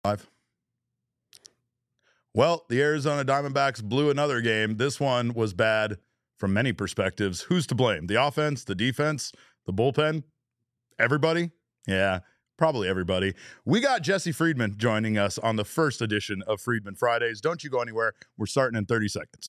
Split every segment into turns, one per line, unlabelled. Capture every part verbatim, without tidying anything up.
Five. Well, the Arizona Diamondbacks blew another game. This one was bad from many perspectives. Who's to blame? The offense, the defense, the bullpen? Everybody? Yeah, probably everybody. We got Jesse Friedman joining us on the first edition of Friedman Fridays. Don't you go anywhere. We're starting in thirty seconds.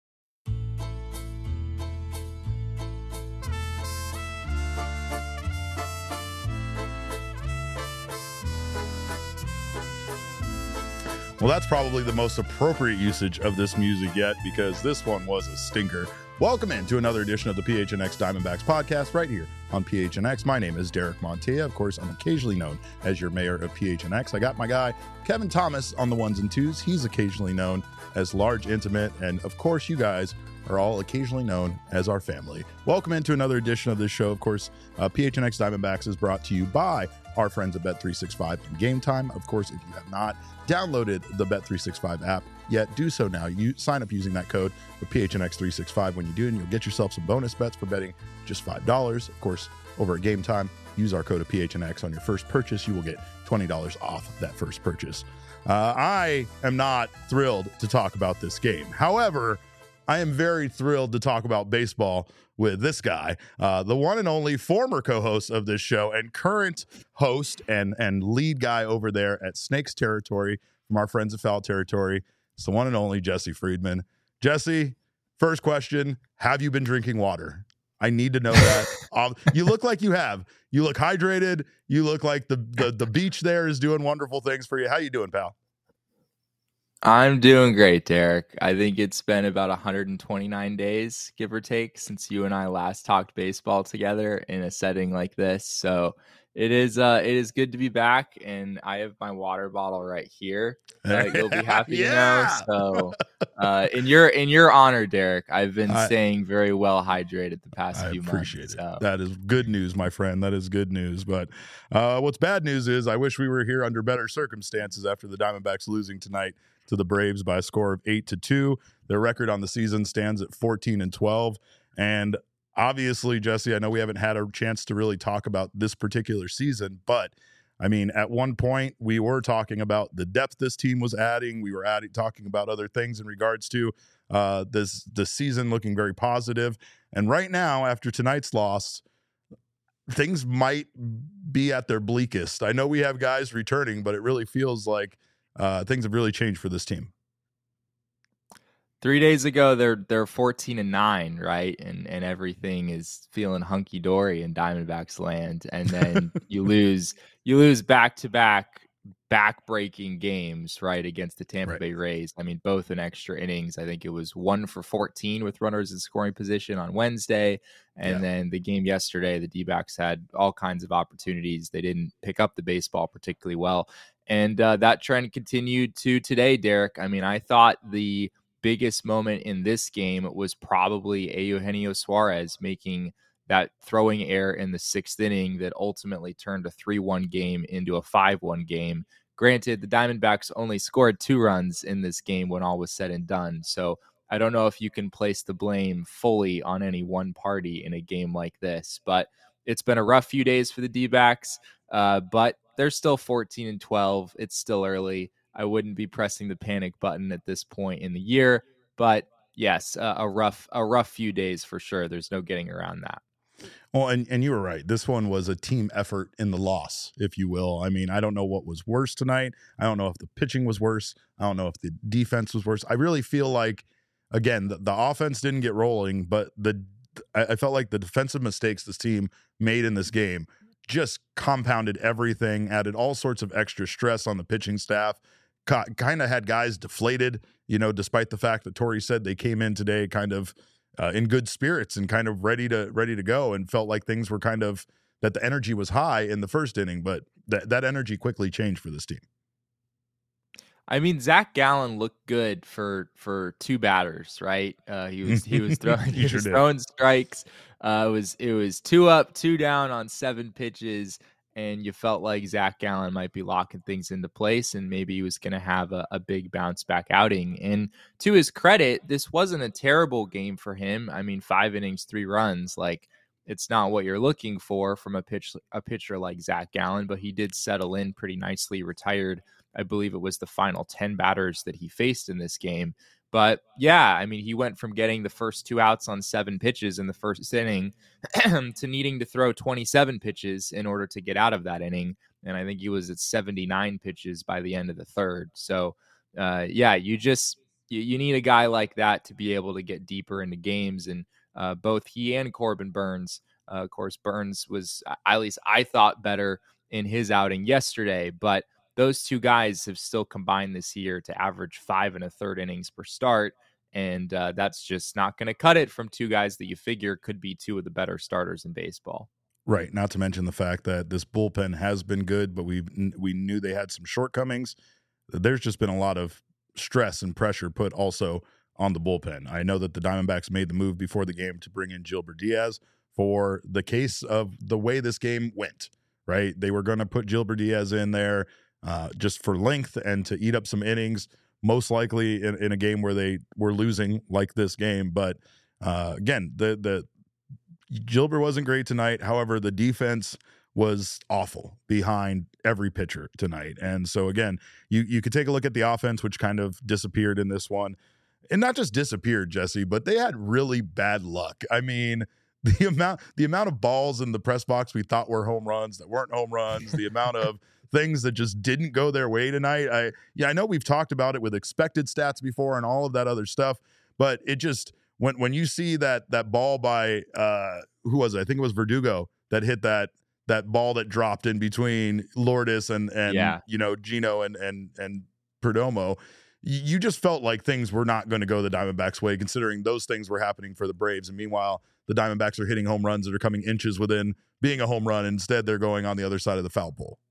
Well, that's probably the most appropriate usage of this music yet, because this one was a stinker. Welcome in to another edition of the P H N X Diamondbacks podcast right here on P H N X. My name is Derek Montilla. Of course, I'm occasionally known as your mayor of P H N X. I got my guy, Kevin Thomas, on the ones and twos. He's occasionally known as Large Intimate. And of course, you guys are all occasionally known as our family. Welcome into another edition of this show. Of course, uh, P H N X Diamondbacks is brought to you by our friends at Bet three sixty-five and Game Time. Of course, if you have not downloaded the Bet three sixty-five app yet, do so now. You sign up using that code of P H N X three sixty-five when you do, and you'll get yourself some bonus bets for betting just five dollars. Of course, over at Game Time, use our code of P H N X on your first purchase. You will get twenty dollars off that first purchase. Uh, I am not thrilled to talk about this game. However, I am very thrilled to talk about baseball with this guy, uh, the one and only former co-host of this show and current host and, and lead guy over there at Snakes Territory from our friends at Foul Territory. It's the one and only Jesse Friedman. Jesse, first question, have you been drinking water? I need to know that. um, you look like you have. You look hydrated. You look like the, the, the beach there is doing wonderful things for you. How you doing, pal?
I'm doing great, Derek. I think it's been about one hundred twenty-nine days, give or take, since you and I last talked baseball together in a setting like this. So it is uh, it is good to be back, and I have my water bottle right here. Uh, you'll be happy
yeah.
to know. So uh, in your in your honor, Derek, I've been
I,
staying very well hydrated the past
I
few
appreciate
months.
it.
So.
That is good news, my friend. That is good news. But uh, what's bad news is I wish we were here under better circumstances after the Diamondbacks losing tonight to the Braves by a score of eight to two. Their record on the season stands at fourteen and twelve. And obviously, Jesse, I know we haven't had a chance to really talk about this particular season, but I mean, at one point we were talking about the depth this team was adding. We were adding, talking about other things in regards to uh, this, this season looking very positive. And right now, after tonight's loss, things might be at their bleakest. I know we have guys returning, but it really feels like Uh, things have really changed for this team.
Three days ago, they're they're fourteen and nine, right, and and everything is feeling hunky dory in Diamondbacks land. And then you lose you lose back to back back breaking games, right, against the Tampa
right.
Bay Rays. I mean, both in extra innings. I think it was one for fourteen with runners in scoring position on Wednesday, and yeah. then the game yesterday, the D-backs had all kinds of opportunities. They didn't pick up the baseball particularly well. And uh, that trend continued to today, Derek. I mean, I thought the biggest moment in this game was probably Eugenio Suarez making that throwing error in the sixth inning that ultimately turned a three one game into a five one game. Granted, the Diamondbacks only scored two runs in this game when all was said and done. So I don't know if you can place the blame fully on any one party in a game like this. But it's been a rough few days for the D-backs, uh, but they're still fourteen and twelve. It's still early. I wouldn't be pressing the panic button at this point in the year, but yes, uh, a rough, a rough few days for sure. There's no getting around that.
Well, and, and you were right. This one was a team effort in the loss, if you will. I mean, I don't know what was worse tonight. I don't know if the pitching was worse. I don't know if the defense was worse. I really feel like, again, the, the offense didn't get rolling, but the I, I felt like the defensive mistakes this team made in this game just compounded everything, added all sorts of extra stress on the pitching staff, kind of had guys deflated, you know, despite the fact that Torey said they came in today kind of uh, in good spirits and kind of ready to ready to go, and felt like things were kind of, that the energy was high in the first inning, but that that energy quickly changed for this team.
I mean, Zach Gallen looked good for for two batters, right? Uh, he was he was throwing he, he was sure throwing strikes. Uh, it was it was two up, two down on seven pitches, and you felt like Zach Gallen might be locking things into place, and maybe he was going to have a, a big bounce back outing. And to his credit, this wasn't a terrible game for him. I mean, five innings, three runs, like, it's not what you're looking for from a pitch a pitcher like Zach Gallen, but he did settle in pretty nicely, retired I believe it was the final ten batters that he faced in this game. But yeah, I mean, he went from getting the first two outs on seven pitches in the first inning to needing to throw twenty-seven pitches in order to get out of that inning. And I think he was at seventy-nine pitches by the end of the third. So uh, yeah, you just, you, you need a guy like that to be able to get deeper into games. And uh, both he and Corbin Burnes, uh, of course, Burnes was, at least I thought, better in his outing yesterday, but those two guys have still combined this year to average five and a third innings per start. And uh, that's just not going to cut it from two guys that you figure could be two of the better starters in baseball.
Right. Not to mention the fact that this bullpen has been good, but we we knew they had some shortcomings. There's just been a lot of stress and pressure put also on the bullpen. I know that the Diamondbacks made the move before the game to bring in Gilbert Diaz for the case of the way this game went, right? They were going to put Gilbert Diaz in there uh, just for length and to eat up some innings, most likely in, in a game where they were losing like this game. But uh, again, the the Gilbert wasn't great tonight. However, the defense was awful behind every pitcher tonight. And so again, you you could take a look at the offense, which kind of disappeared in this one. And not just disappeared, Jesse, but they had really bad luck. I mean, the amount the amount of balls in the press box we thought were home runs that weren't home runs, the amount of things that just didn't go their way tonight. I yeah, I know we've talked about it with expected stats before and all of that other stuff, but it just when when you see that that ball by uh, who was it? I think it was Verdugo that hit that that ball that dropped in between Lourdes and and
yeah.
you know Gino and and and Perdomo. You just felt like things were not going to go the Diamondbacks' way, considering those things were happening for the Braves. And meanwhile, the Diamondbacks are hitting home runs that are coming inches within being a home run. Instead, they're going on the other side of the foul pole.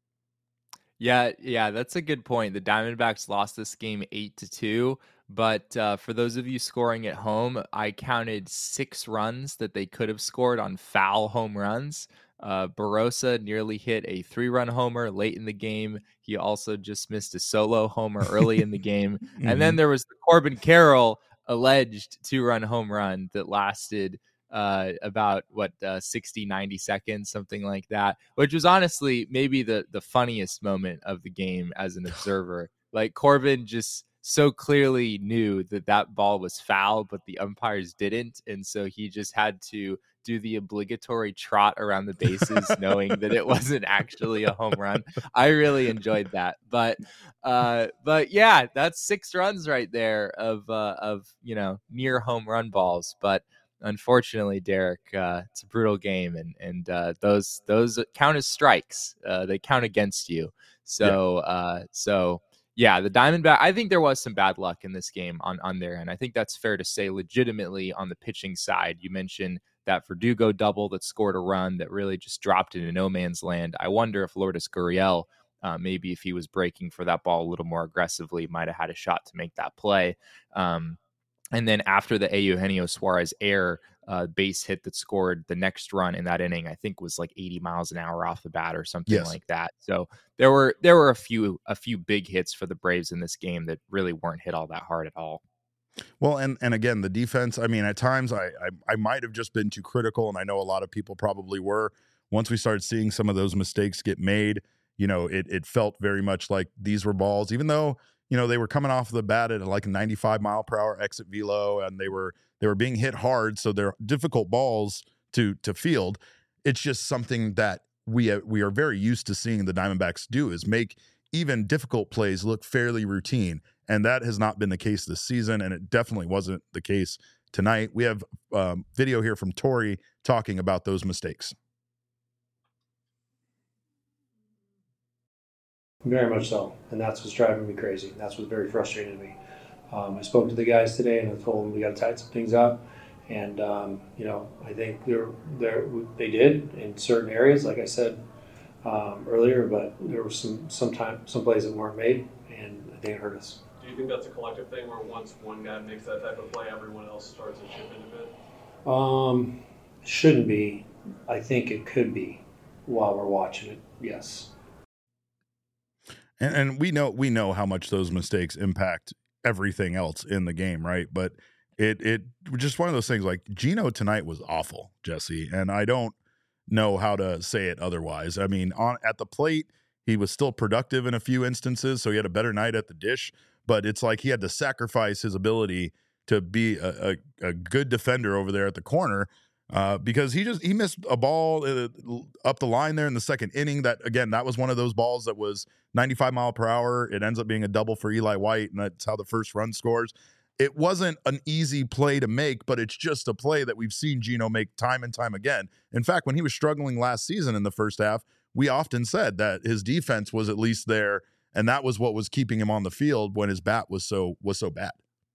Yeah, yeah, that's a good point. The Diamondbacks lost this game eight to two. But uh, for those of you scoring at home, I counted six runs that they could have scored on foul home runs. Uh, Barossa nearly hit a three-run homer late in the game. He also just missed a solo homer early in the game. mm-hmm. And then there was the Corbin Carroll alleged two-run home run that lasted uh, about, what, uh, sixty, ninety seconds, something like that, which was honestly maybe the, the funniest moment of the game as an observer. Like, Corbin just so clearly knew that that ball was foul, but the umpires didn't. And so he just had to do the obligatory trot around the bases knowing that it wasn't actually a home run. I really enjoyed that. But uh, but yeah, that's six runs right there of, uh, of you know, near home run balls. But unfortunately, Derek, uh, it's a brutal game, and and uh, those those count as strikes. Uh, they count against you. So yeah. uh, so. Yeah, the Diamondback, I think there was some bad luck in this game on, on their end. I think that's fair to say legitimately on the pitching side. You mentioned that Verdugo double that scored a run that really just dropped into no man's land. I wonder if Lourdes Gurriel, uh, maybe if he was breaking for that ball a little more aggressively, might have had a shot to make that play. Um, and then after the Eugenio Suarez error, uh, base hit that scored the next run in that inning, I think was like eighty miles an hour off the bat or something yes. like that. So there were there were a few a few big hits for the Braves in this game that really weren't hit all that hard at all.
Well, and and again, the defense, I mean, at times I, I, I might have just been too critical, and I know a lot of people probably were. Once we started seeing some of those mistakes get made, you know, it it felt very much like these were balls, even though, you know, they were coming off the bat at like a ninety-five mile per hour exit velo, and they were they were being hit hard, so they're difficult balls to to field. It's just something that we we are very used to seeing the Diamondbacks do, is make even difficult plays look fairly routine, and that has not been the case this season, and it definitely wasn't the case tonight. We have um, video here from Torey talking about those mistakes.
Very much so, and that's what's driving me crazy. That's what's very frustrating to me. Um, I spoke to the guys today, and I told them we got to tighten some things up. And um, you know, I think they're they they did in certain areas, like I said um, earlier. But there were some some time some plays that weren't made, and I think it hurt us.
Do you think that's a collective thing, where once one guy makes that type of play, everyone else starts to chip in a bit?
Um, shouldn't be. I think it could be while we're watching it. Yes.
And, and we know we know how much those mistakes impact everything else in the game, right? But it it just one of those things. Like, Gino tonight was awful, Jesse, and I don't know how to say it otherwise. I mean, on at the plate, He was still productive in a few instances, so he had a better night at the dish. But it's like he had to sacrifice his ability to be a, a, a good defender over there at the corner uh, because he just he missed a ball uh, up the line there in the second inning. That again, that was one of those balls that was ninety-five mile per hour. It ends up being a double for Eli White, and that's how the first run scores. It wasn't an easy play to make, but it's just a play that we've seen Geno make time and time again. In fact, when he was struggling last season in the first half, we often said that his defense was at least there, and that was what was keeping him on the field when his bat was so was so bad.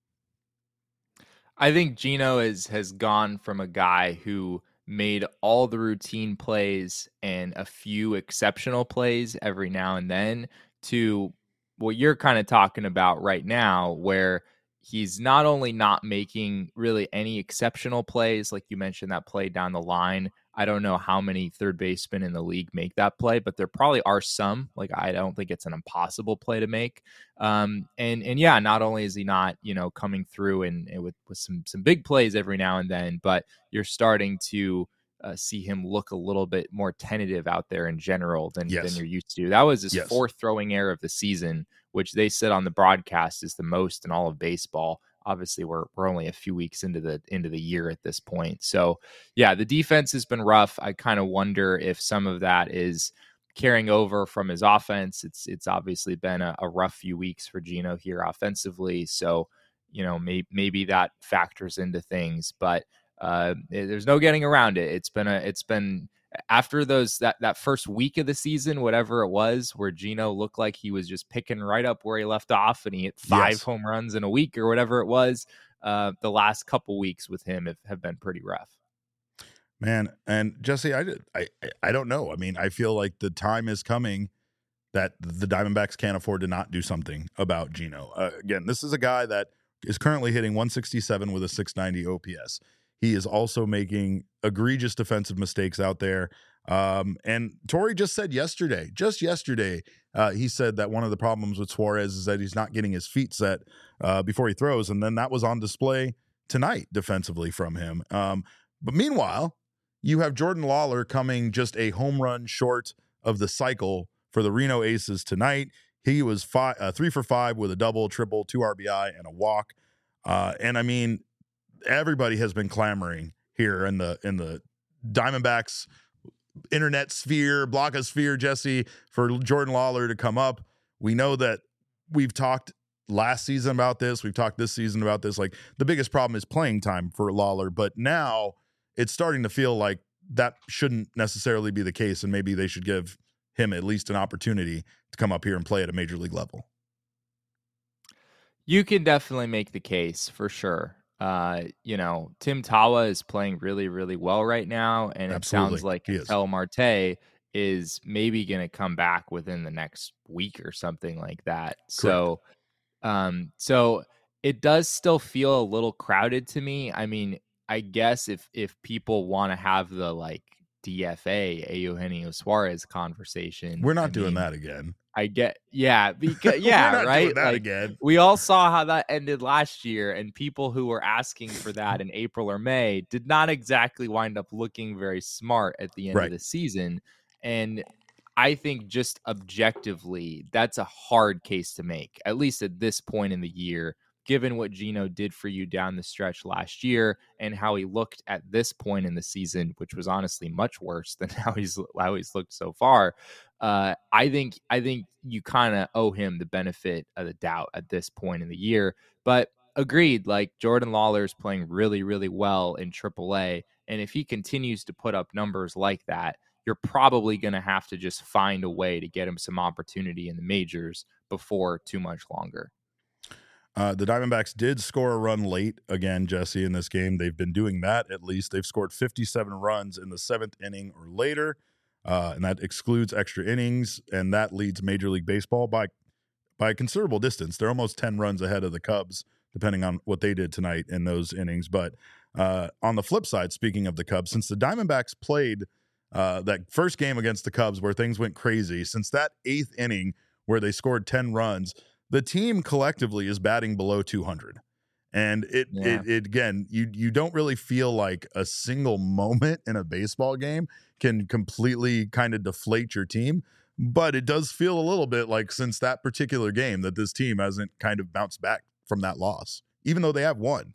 I think Geno is, has gone from a guy who made all the routine plays and a few exceptional plays every now and then to what you're kind of talking about right now, where he's not only not making really any exceptional plays, like you mentioned that play down the line. I don't know how many third basemen in the league make that play, but there probably are some. Like, I don't think it's an impossible play to make. Um, and and yeah, not only is he not, you know, coming through and, and with with some some big plays every now and then, but you're starting to uh, see him look a little bit more tentative out there in general than
yes.
than you're used to. That was his
yes.
fourth throwing error of the season, which they said on the broadcast is the most in all of baseball. Obviously, we're we're only a few weeks into the into the year at this point. So, yeah, the defense has been rough. I kind of wonder if some of that is carrying over from his offense. It's it's obviously been a, a rough few weeks for Geno here offensively. So, you know, maybe maybe that factors into things. But uh, there's no getting around it. It's been a it's been. After those that, that first week of the season, whatever it was, where Geno looked like he was just picking right up where he left off and he hit five
yes.
home runs in a week or whatever it was, uh, the last couple weeks with him have, have been pretty rough.
Man, and Jesse, I, I, I don't know. I mean, I feel like the time is coming that the Diamondbacks can't afford to not do something about Geno. Uh, again, this is a guy that is currently hitting one sixty-seven with a six ninety O P S. He is also making egregious defensive mistakes out there. Um, and Torey just said yesterday, just yesterday, uh, he said that one of the problems with Suarez is that he's not getting his feet set uh, before he throws. And then that was on display tonight defensively from him. Um, but meanwhile, you have Jordan Lawler coming just a home run short of the cycle for the Reno Aces tonight. He was five, uh, three for five with a double, triple, two R B I, and a walk. Uh, and I mean, everybody has been clamoring here in the in the Diamondbacks internet sphere, blogosphere, Jesse, for Jordan Lawler to come up. We know that we've talked last season about this. We've talked this season about this. Like, the biggest problem is playing time for Lawler, but now it's starting to feel like that shouldn't necessarily be the case, and maybe they should give him at least an opportunity to come up here and play at a major league level.
You can definitely make the case for sure. Uh, you know, Tim Tawa is playing really, really well right now, and it
Absolutely.
sounds like El Marte is maybe going to come back within the next week or something like that. Correct. So, um, so it does still feel a little crowded to me. I mean, I guess if if people want to have the like D F A, Eugenio Suarez conversation,
we're not
I
doing
mean,
that again.
I get, yeah, because yeah,
we're not
right.
Doing that
like,
again.
We all saw how that ended last year, and people who were asking for that in April or May did not exactly wind up looking very smart at the end
right.
of the season. And I think just objectively, that's a hard case to make, at least at this point in the year, given what Geno did for you down the stretch last year and how he looked at this point in the season, which was honestly much worse than how he's how he's looked so far. Uh, I think I think you kind of owe him the benefit of the doubt at this point in the year. But agreed, like Jordan Lawler is playing really, really well in triple A, and if he continues to put up numbers like that, you're probably going to have to just find a way to get him some opportunity in the majors before too much longer.
Uh, the Diamondbacks did score a run late again, Jesse, in this game. They've been doing that at least. They've scored fifty-seven runs in the seventh inning or later, uh, and that excludes extra innings, and that leads Major League Baseball by by a considerable distance. They're almost ten runs ahead of the Cubs, depending on what they did tonight in those innings. But uh, on the flip side, speaking of the Cubs, since the Diamondbacks played uh, that first game against the Cubs where things went crazy, since that eighth inning where they scored ten runs, the team collectively is batting below two hundred. And it,
yeah.
it, it, again, you, you don't really feel like a single moment in a baseball game can completely kind of deflate your team. But it does feel a little bit like since that particular game that this team hasn't kind of bounced back from that loss, even though they have won.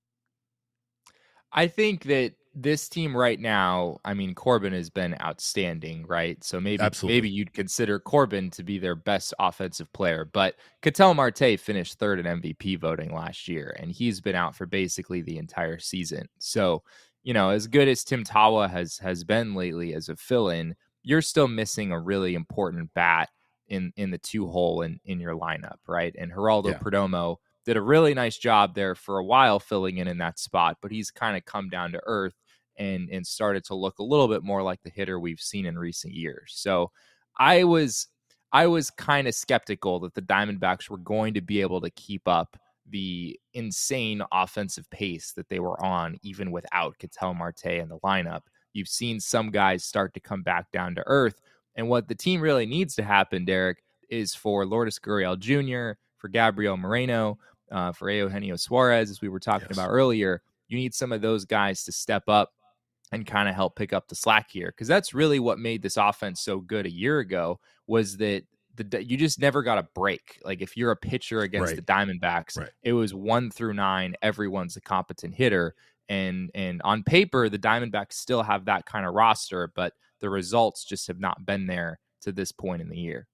I think that this team right now, I mean, Corbin has been outstanding, right? So maybe
Absolutely.
maybe you'd consider Corbin to be their best offensive player, but Ketel Marte finished third in M V P voting last year, and he's been out for basically the entire season. So, you know, as good as Tim Tawa has has been lately as a fill-in, you're still missing a really important bat in in the two hole in in your lineup, right? And Geraldo
Yeah.
Perdomo did a really nice job there for a while filling in in that spot, but he's kind of come down to earth and and started to look a little bit more like the hitter we've seen in recent years. So I was I was kind of skeptical that the Diamondbacks were going to be able to keep up the insane offensive pace that they were on, even without Ketel Marte in the lineup. You've seen some guys start to come back down to earth. And what the team really needs to happen, Derek, is for Lourdes Gurriel Junior, for Gabriel Moreno, uh, for Eugenio Suarez, as we were talking
Yes.
about earlier. You need some of those guys to step up and kind of help pick up the slack here, because that's really what made this offense so good a year ago, was that the you just never got a break. Like if you're a pitcher against
Right.
the Diamondbacks,
Right.
it was one through nine. Everyone's a competent hitter. And and on paper, the Diamondbacks still have that kind of roster, but the results just have not been there to this point in the year.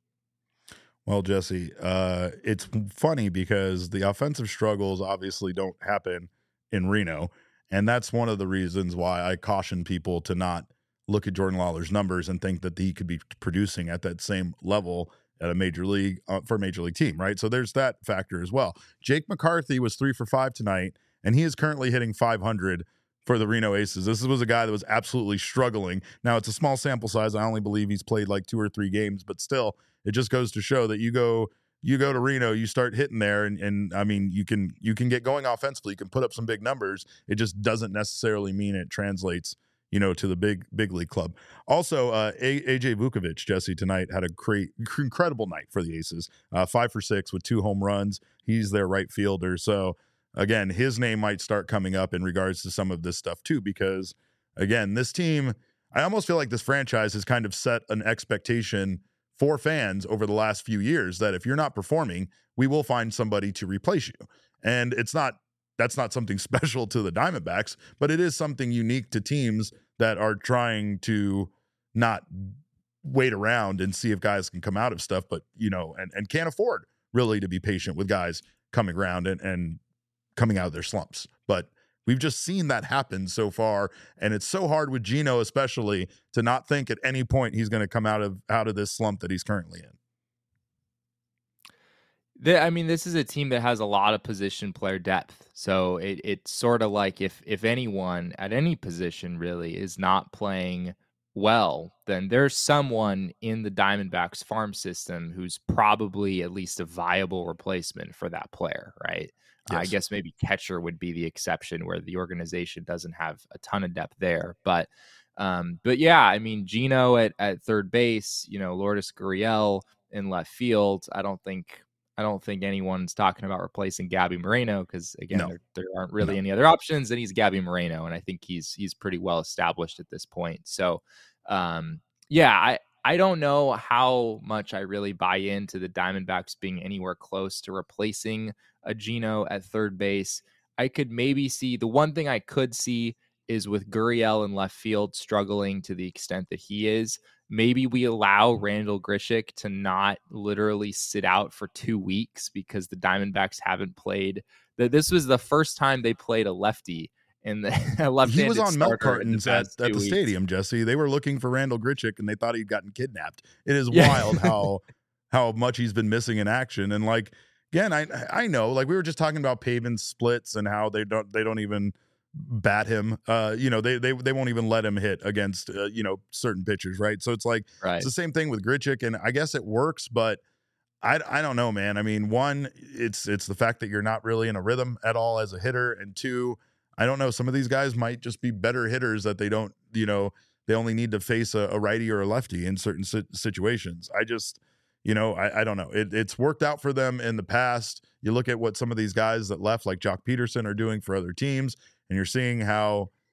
Well, Jesse, uh, it's funny because the offensive struggles obviously don't happen in Reno. And that's one of the reasons why I caution people to not look at Jordan Lawler's numbers and think that he could be producing at that same level at a major league uh, for a major league team, right? So there's that factor as well. Jake McCarthy was three for five tonight, and he is currently hitting five hundred for the Reno Aces. This was a guy that was absolutely struggling. Now, it's a small sample size. I only believe he's played like two or three games, but still, it just goes to show that you go you go to Reno, you start hitting there, and, and I mean, you can you can get going offensively. You can put up some big numbers. It just doesn't necessarily mean it translates, you know, to the big big league club. Also, uh, A J Vukovic, Jesse, tonight had a great, incredible night for the Aces. Uh, five for six with two home runs. He's their right fielder. So, again, his name might start coming up in regards to some of this stuff too, because, again, this team, I almost feel like this franchise has kind of set an expectation for fans over the last few years that if you're not performing, we will find somebody to replace you. And it's not, that's not something special to the Diamondbacks, but it is something unique to teams that are trying to not wait around and see if guys can come out of stuff, but, you know, and, and can't afford really to be patient with guys coming around and, and coming out of their slumps. But we've just seen that happen so far, and it's so hard with Gino especially to not think at any point he's going to come out of out of this slump that he's currently in.
The, I mean, this is a team that has a lot of position player depth. So it, it's sort of like if if anyone at any position really is not playing well, then there's someone in the Diamondbacks farm system who's probably at least a viable replacement for that player, right?
Yes.
I guess maybe catcher would be the exception where the organization doesn't have a ton of depth there. But um, but yeah, I mean, Gino at, at third base, you know, Lourdes Gurriel in left field. I don't think I don't think anyone's talking about replacing Gabby Moreno because, again,
No.
there, there aren't really
No.
any other options. And he's Gabby Moreno, and I think he's he's pretty well established at this point. So, um, yeah, I, I don't know how much I really buy into the Diamondbacks being anywhere close to replacing a Gino at third base. I could maybe see the one thing I could see is with Gurriel in left field struggling to the extent that he is. Maybe we allow Randall Grichuk to not literally sit out for two weeks because the Diamondbacks haven't played. This was the first time they played a lefty in the left-handed
He was on milk
starter in the
cartons at,
past
at
two
the
weeks.
stadium, Jesse. They were looking for Randall Grichuk, and they thought he'd gotten kidnapped. It is
Yeah.
wild how how much he's been missing in action. And like again, I I know, like we were just talking about Pavin splits and how they don't they don't even bat him. Uh, you know, they they they won't even let him hit against uh, you know, certain pitchers, right? So it's like
Right.
it's the same thing with Grichuk, and I guess it works, but I, I don't know, man. I mean, one, it's it's the fact that you're not really in a rhythm at all as a hitter, and two, I don't know. Some of these guys might just be better hitters that they don't, you know, they only need to face a, a righty or a lefty in certain si- situations. I just, you know, I, I don't know. It, it's worked out for them in the past. You look at what some of these guys that left, like Jock Peterson, are doing for other teams, and you're seeing how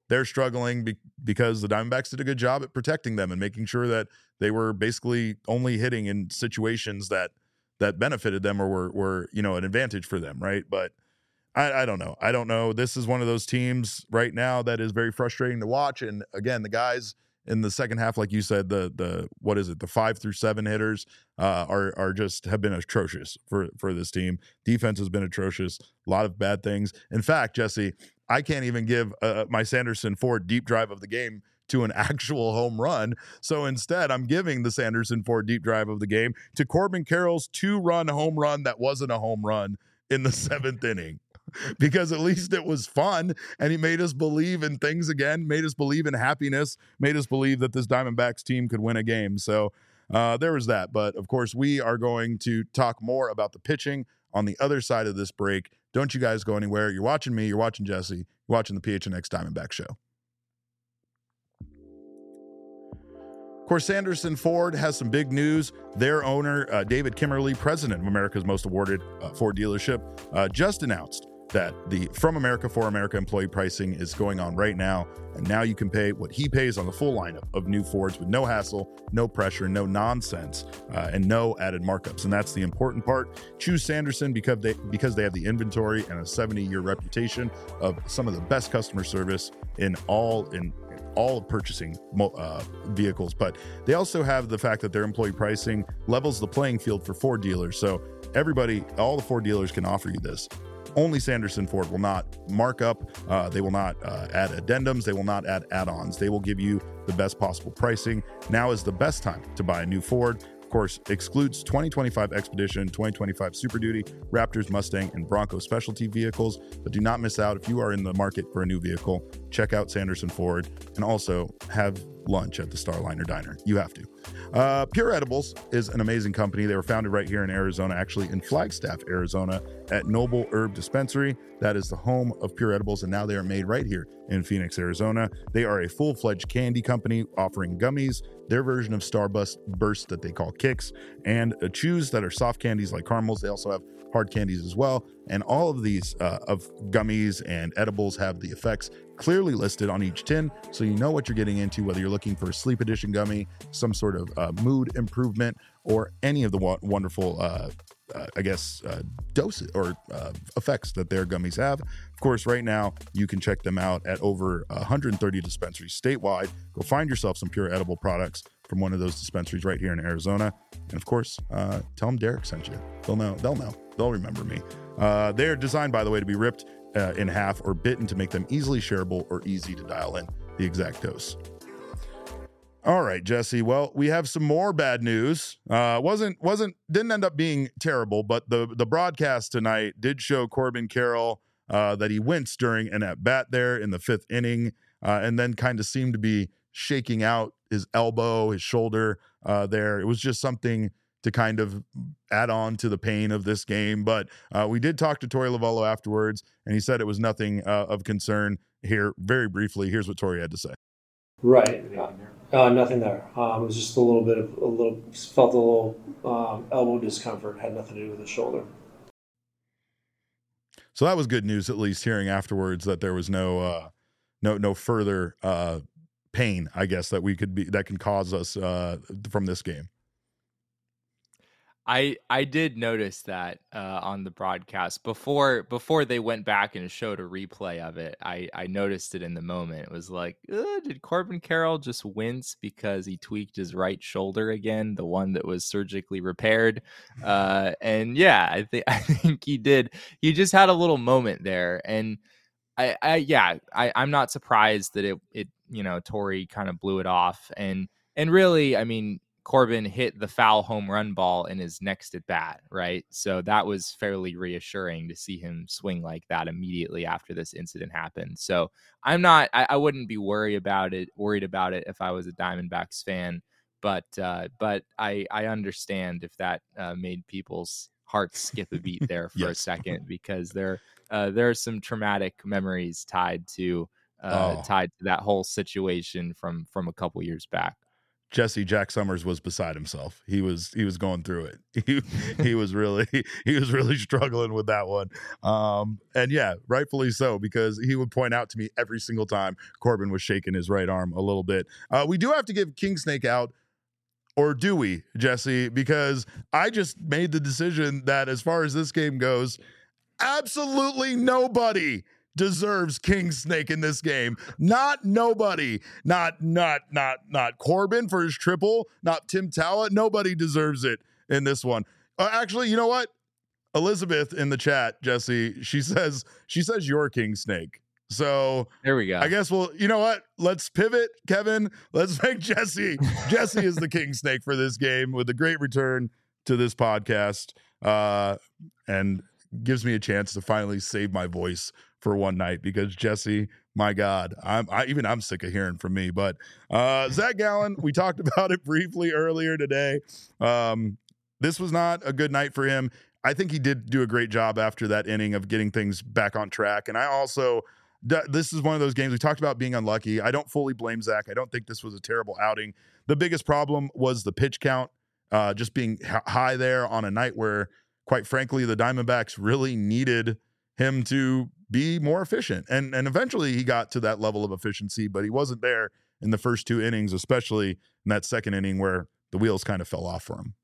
they're struggling be- because the Diamondbacks did a good job at protecting them and making sure that they were basically only hitting in situations that that benefited them or were, were you know, an advantage for them, right? But I, I don't know. I don't know. This is one of those teams right now that is very frustrating to watch. And again, the guys in the second half, like you said, the the what is it, the five through seven hitters uh, are are just have been atrocious for for this team. Defense has been atrocious. A lot of bad things. In fact, Jesse, I can't even give uh, my Sanderson Ford deep drive of the game to an actual home run. So instead, I'm giving the Sanderson Ford deep drive of the game to Corbin Carroll's two-run home run that wasn't a home run in the seventh inning. Because at least it was fun, and he made us believe in things again, made us believe in happiness, made us believe that this Diamondbacks team could win a game. So uh, there was that. But, of course, we are going to talk more about the pitching on the other side of this break. Don't you guys go anywhere. You're watching me. You're watching Jesse. You're watching the P H N X Diamondback Show. Of course, Sanderson Ford has some big news. Their owner, uh, David Kimmerly, president of America's most awarded uh, Ford dealership, uh, just announced that the From America for America employee pricing is going on right now. And now you can pay what he pays on the full lineup of new Fords with no hassle, no pressure, no nonsense, uh, and no added markups. And that's the important part. Choose Sanderson because they because they have the inventory and a seventy-year reputation of some of the best customer service in all in all of purchasing uh, vehicles. But they also have the fact that their employee pricing levels the playing field for Ford dealers. So everybody, all the Ford dealers can offer you this. Only Sanderson Ford will not mark up. Uh, they will not uh, add addendums. They will not add add-ons. They will give you the best possible pricing. Now is the best time to buy a new Ford. Of course, excludes twenty twenty-five Expedition, twenty twenty-five Super Duty, Raptors, Mustang, and Bronco specialty vehicles. But do not miss out. If you are in the market for a new vehicle, check out Sanderson Ford and also have lunch at the Starliner Diner. You have to. Uh, Pure Edibles is an amazing company. They were founded right here in Arizona, actually in Flagstaff, Arizona, at Noble Herb Dispensary. That is the home of Pure Edibles, and now they are made right here in Phoenix, Arizona. They are a full-fledged candy company offering gummies, their version of Starburst Burst that they call Kicks, and uh, chews that are soft candies like caramels. They also have hard candies as well. And all of these uh, of gummies and edibles have the effects clearly listed on each tin, so you know what you're getting into, whether you're looking for a sleep edition gummy, some sort of uh, mood improvement, or any of the wa- wonderful, uh, uh, I guess, uh, doses or uh, effects that their gummies have. Of course, right now, you can check them out at over one hundred thirty dispensaries statewide. Go find yourself some Pure Edible products from one of those dispensaries right here in Arizona. And of course, uh, tell them Derek sent you. They'll know. They'll know. They'll remember me. Uh, they're designed, by the way, to be ripped uh, in half or bitten to make them easily shareable or easy to dial in the exact dose. All right, Jesse. Well, we have some more bad news. Uh, wasn't wasn't didn't end up being terrible, but the the broadcast tonight did show Corbin Carroll uh, that he winced during an at bat there in the fifth inning, uh, and then kind of seemed to be shaking out his elbow, his shoulder uh, there. It was just something to kind of add on to the pain of this game. But uh, we did talk to Torey Lovullo afterwards, and he said it was nothing uh, of concern. Here, very briefly, here's what Torey had to say.
Right. Uh, uh, nothing there. Um, it was just a little bit of a little, felt a little um, elbow discomfort. Had nothing to do with the shoulder.
So that was good news, at least hearing afterwards that there was no, uh, no, no further uh, pain, I guess, that we could be that can cause us uh, from this game.
I I did notice that uh, on the broadcast before before they went back and showed a replay of it. I, I noticed it in the moment. It was like, did Corbin Carroll just wince because he tweaked his right shoulder again, the one that was surgically repaired? Uh, and yeah, I think I think he did. He just had a little moment there, and I, I yeah, I, I'm not surprised that it it you know Torey kind of blew it off, and and really, I mean, Corbin hit the foul home run ball in his next at bat, right? So that was fairly reassuring to see him swing like that immediately after this incident happened. So I'm not, I, I wouldn't be worried about it, worried about it if I was a Diamondbacks fan, but uh, but I I understand if that uh, made people's hearts skip a beat there for yes. a second, because there uh, there are some traumatic memories tied to uh, oh. tied to that whole situation from from a couple years back.
Jesse Jack Summers was beside himself. He was he was going through it. He he was really he was really struggling with that one. Um, and yeah, rightfully so, because he would point out to me every single time Corbin was shaking his right arm a little bit. Uh, we do have to give King Snake out, or do we, Jesse? Because I just made the decision that as far as this game goes, absolutely nobody deserves King Snake in this game. Not nobody. Not not not not Corbin for his triple. Not Tim Talla. Nobody deserves it in this one. Uh, actually, you know what? Elizabeth in the chat, Jesse, she says she says you're King Snake. So
there we go.
I guess we'll. You know what? Let's pivot, Kevin. Let's make Jesse. Jesse is the King Snake for this game with a great return to this podcast, uh, and gives me a chance to finally save my voice for one night, because Jesse, my God, I'm I, even I'm sick of hearing from me. But uh, Zach Gallen, we talked about it briefly earlier today. Um, this was not a good night for him. I think he did do a great job after that inning of getting things back on track. And I also, this is one of those games we talked about being unlucky. I don't fully blame Zach. I don't think this was a terrible outing. The biggest problem was the pitch count, uh, just being h- high there on a night where, quite frankly, the Diamondbacks really needed him to be more efficient. And and eventually he got to that level of efficiency, but he wasn't there in the first two innings, especially in that second inning where the wheels kind of fell off for him.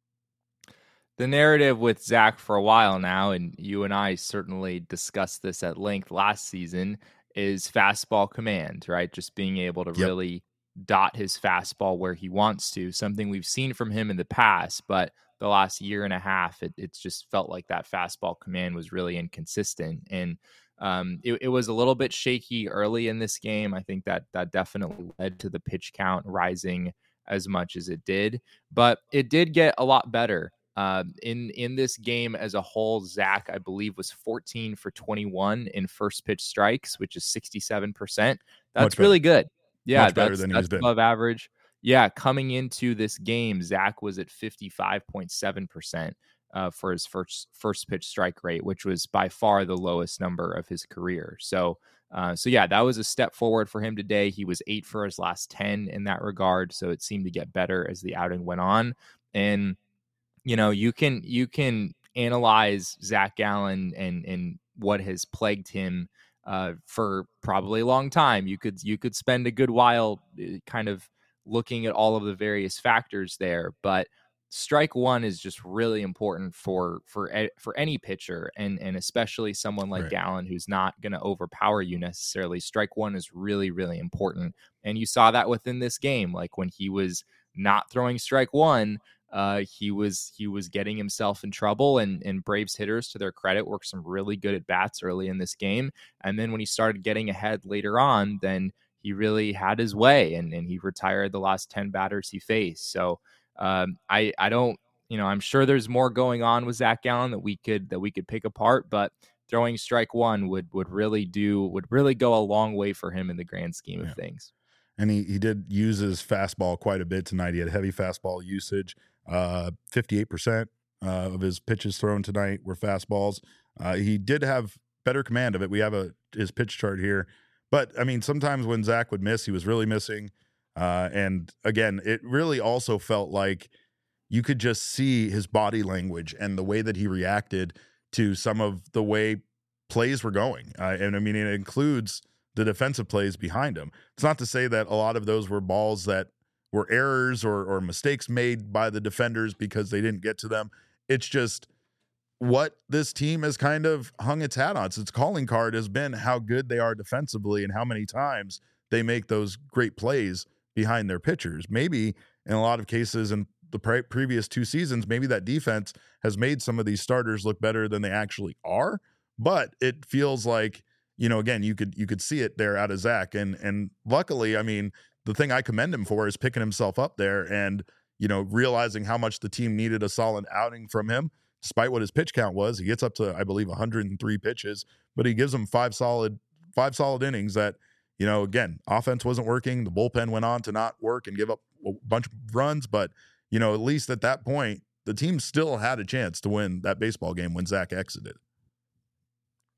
The narrative with Zach for a while now, and you and I certainly discussed this at length last season, is fastball command, right? Just being able to
Yep.
really dot his fastball where he wants to, something we've seen from him in the past, but the last year and a half, it, it's just felt like that fastball command was really inconsistent. And um, it, it was a little bit shaky early in this game. I think that that definitely led to the pitch count rising as much as it did, but it did get a lot better. Uh, in, in this game as a whole, Zach, I believe, was fourteen for twenty-one in first pitch strikes, which is sixty-seven percent. That's really good. Yeah,
Much better
that's,
than
that's
he's been.
above average. Yeah, coming into this game, Zach was at fifty-five point seven percent uh, for his first first pitch strike rate, which was by far the lowest number of his career. So, uh, so yeah, that was a step forward for him today. He was eight for his last ten in that regard, so it seemed to get better as the outing went on. And you know, you can you can analyze Zach Gallen and and what has plagued him uh, for probably a long time. You could you could spend a good while kind of looking at all of the various factors there, but strike one is just really important for for for any pitcher, and and especially someone like
Right.
Gallen, who's not going to overpower you necessarily. Strike one is really really important, and you saw that within this game. Like when he was not throwing strike one, uh, he was he was getting himself in trouble, and and Braves hitters, to their credit, worked some really good at bats early in this game, and then when he started getting ahead later on, then he really had his way, and, and he retired the last ten batters he faced. So um, I I don't, you know, I'm sure there's more going on with Zach Gallen that we could that we could pick apart, but throwing strike one would would really do would really go a long way for him in the grand scheme
Yeah.
of things.
And he, he did use his fastball quite a bit tonight. He had heavy fastball usage. Uh, fifty-eight percent uh, of his pitches thrown tonight were fastballs. Uh, he did have better command of it. We have a his pitch chart here. But, I mean, sometimes when Zach would miss, he was really missing. Uh, and, again, it really also felt like you could just see his body language and the way that he reacted to some of the way plays were going. Uh, and, I mean, it includes the defensive plays behind him. It's not to say that a lot of those were balls that were errors or, or mistakes made by the defenders because they didn't get to them. It's just what this team has kind of hung its hat on. It's its calling card has been how good they are defensively and how many times they make those great plays behind their pitchers. Maybe in a lot of cases in the pre- previous two seasons, maybe that defense has made some of these starters look better than they actually are. But it feels like, you know, again, you could you could see it there out of Zach. And and luckily, I mean, the thing I commend him for is picking himself up there and, you know, realizing how much the team needed a solid outing from him. Despite what his pitch count was, he gets up to, I believe, one hundred three pitches, but he gives them five solid, five solid innings that, you know, again, offense wasn't working. The bullpen went on to not work and give up a bunch of runs. But, you know, at least at that point, the team still had a chance to win that baseball game when Zach exited.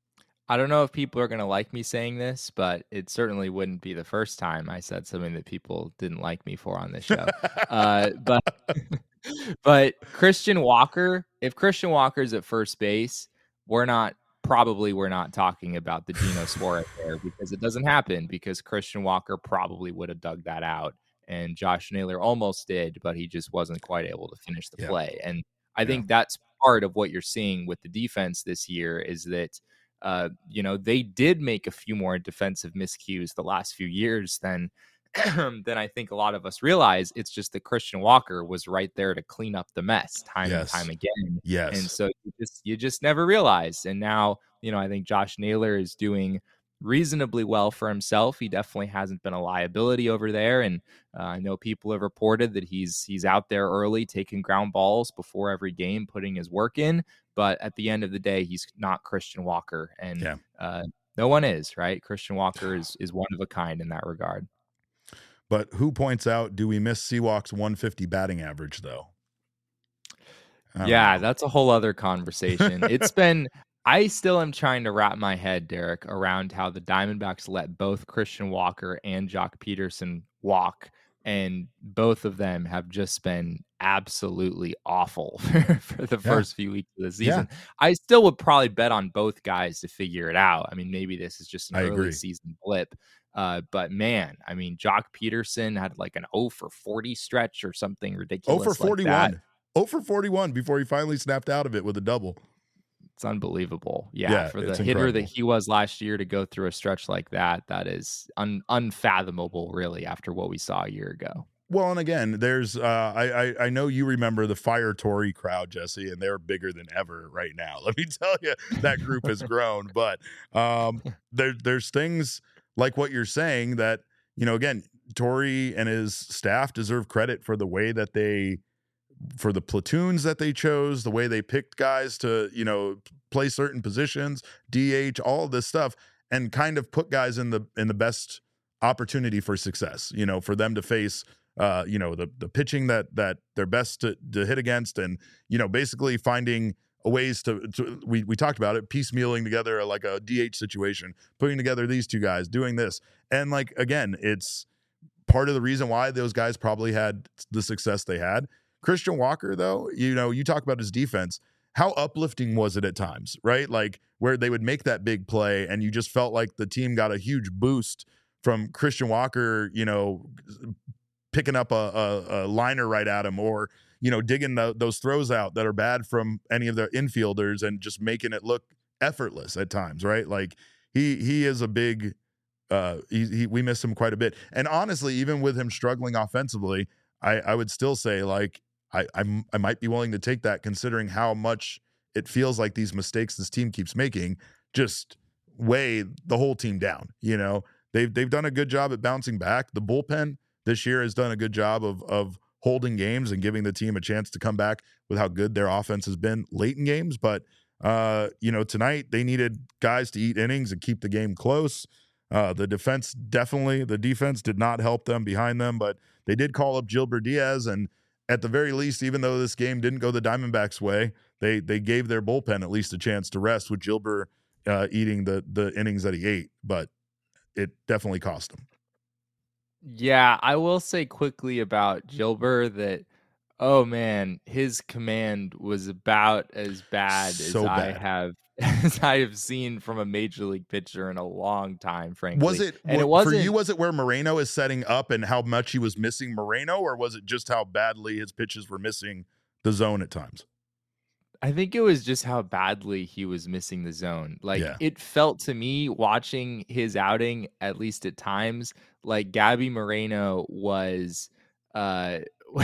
I don't know if people are going to like me saying this, but it certainly wouldn't be the first time I said something that people didn't like me for on this show. uh, but but Christian Walker, if Christian Walker's at first base, we're not probably we're not talking about the Geno Suarez there, because it doesn't happen, because Christian Walker probably would have dug that out, and Josh Naylor almost did, but he just wasn't quite able to finish the
Yeah.
play. And I
Yeah.
think that's part of what you're seeing with the defense this year, is that Uh, you know, they did make a few more defensive miscues the last few years than than I think a lot of us realize. It's just that Christian Walker was right there to clean up the mess time
Yes.
and time again.
Yes.
And so you just you just never realize. And now, you know, I think Josh Naylor is doing reasonably well for himself. He definitely hasn't been a liability over there. And uh, I know people have reported that he's he's out there early, taking ground balls before every game, putting his work in. But at the end of the day, he's not Christian Walker, and
Yeah.
uh, no one is, right? Christian Walker is is one of a kind in that regard.
But who points out, do we miss Seawalk's one fifty batting average, though?
Yeah,
know.
that's a whole other conversation. It's been, I still am trying to wrap my head, Derek, around how the Diamondbacks let both Christian Walker and Jock Peterson walk, and both of them have just been absolutely awful for the
Yeah.
first few weeks of the season. I still would probably bet on both guys to figure it out. I mean, maybe this is just an
I
early
agree.
season blip. Uh, but man, I mean, Jock Peterson had like an oh for forty stretch or something
oh
ridiculous.
for
like that.
forty-one. oh for forty-one before he finally snapped out of it with a double.
It's unbelievable. Yeah,
Yeah,
for the
it's
hitter
incredible.
that he was last year to go through a stretch like that, that is un- unfathomable, really, after what we saw a year ago.
Well, and again, there's uh, I, I I know you remember the Fire Tory crowd, Jesse, and they're bigger than ever right now. Let me tell you, that group has grown. But um, there there's things like what you're saying that, you know, again, Tory and his staff deserve credit for the way that they, for the platoons that they chose, the way they picked guys to, you know, play certain positions, D H, all of this stuff, and kind of put guys in the in the best opportunity for success, you know, for them to face uh, you know, the the pitching that that they're best to, to hit against, and, you know, basically finding ways to, to we we talked about it, piecemealing together like a D H situation, putting together these two guys, doing this. And like, again, it's part of the reason why those guys probably had the success they had. Christian Walker, though, you know, you talk about his defense. How uplifting was it at times, right? Like where they would make that big play and you just felt like the team got a huge boost from Christian Walker, you know, picking up a, a, a liner right at him, or, you know, digging the, those throws out that are bad from any of their infielders and just making it look effortless at times, right? Like he he is a big, uh, he, he we miss him quite a bit. And honestly, even with him struggling offensively, I, I would still say like I I'm, I might be willing to take that, considering how much it feels like these mistakes this team keeps making just weigh the whole team down. You know, they've they've done a good job at bouncing back. The bullpen this year has done a good job of of holding games and giving the team a chance to come back with how good their offense has been late in games. But, uh, you know, tonight they needed guys to eat innings and keep the game close. Uh, the defense definitely, the defense did not help them behind them, but they did call up Gilbert Diaz. And at the very least, even though this game didn't go the Diamondbacks' way, they they gave their bullpen at least a chance to rest with Gilbert uh, eating the the innings that he ate. But it definitely cost them.
Yeah, I will say quickly about Gilbert that, oh man, his command was about as bad
So
as I
bad.
have as I have seen from a major league pitcher in a long time, frankly.
Was it,
and
wh-
it wasn't,
for you, was it where Moreno is setting up and how much he was missing Moreno, or was it just how badly his pitches were missing the zone at times?
I think it was just how badly he was missing the zone. Like
Yeah.
it felt to me watching his outing, at least at times, like Gabby Moreno was uh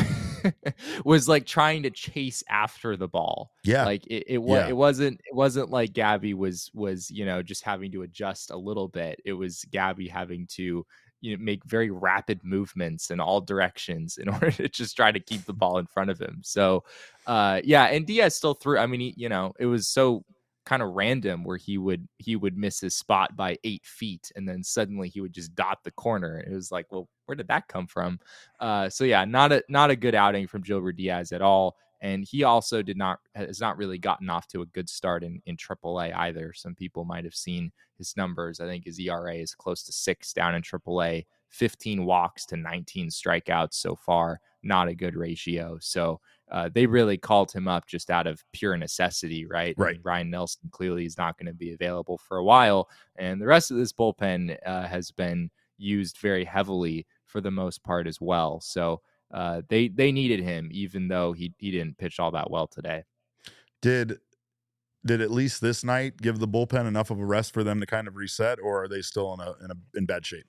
was like trying to chase after the ball.
Yeah.
Like it it, wa-
Yeah.
it wasn't it wasn't like Gabby was was, you know, just having to adjust a little bit. It was Gabby having to, you know, make very rapid movements in all directions in order to just try to keep the ball in front of him. So, uh, yeah, and Diaz still threw. I mean, he, you know, it was so kind of random where he would he would miss his spot by eight feet, and then suddenly he would just dot the corner. It was like, well, where did that come from? Uh, so yeah, not a not a good outing from Gilbert Diaz at all. And he also did not has not really gotten off to a good start in, in triple A either. Some people might have seen his numbers. I think his E R A is close to six down in triple A, fifteen walks to nineteen strikeouts so far. Not a good ratio. So uh, they really called him up just out of pure necessity, right?
Right.
I mean, Ryan Nelson clearly is not going to be available for a while. And the rest of this bullpen uh, has been used very heavily for the most part as well. So Uh, they they needed him, even though he he didn't pitch all that well today.
Did did at least this night give the bullpen enough of a rest for them to kind of reset, or are they still in a in a in bad shape?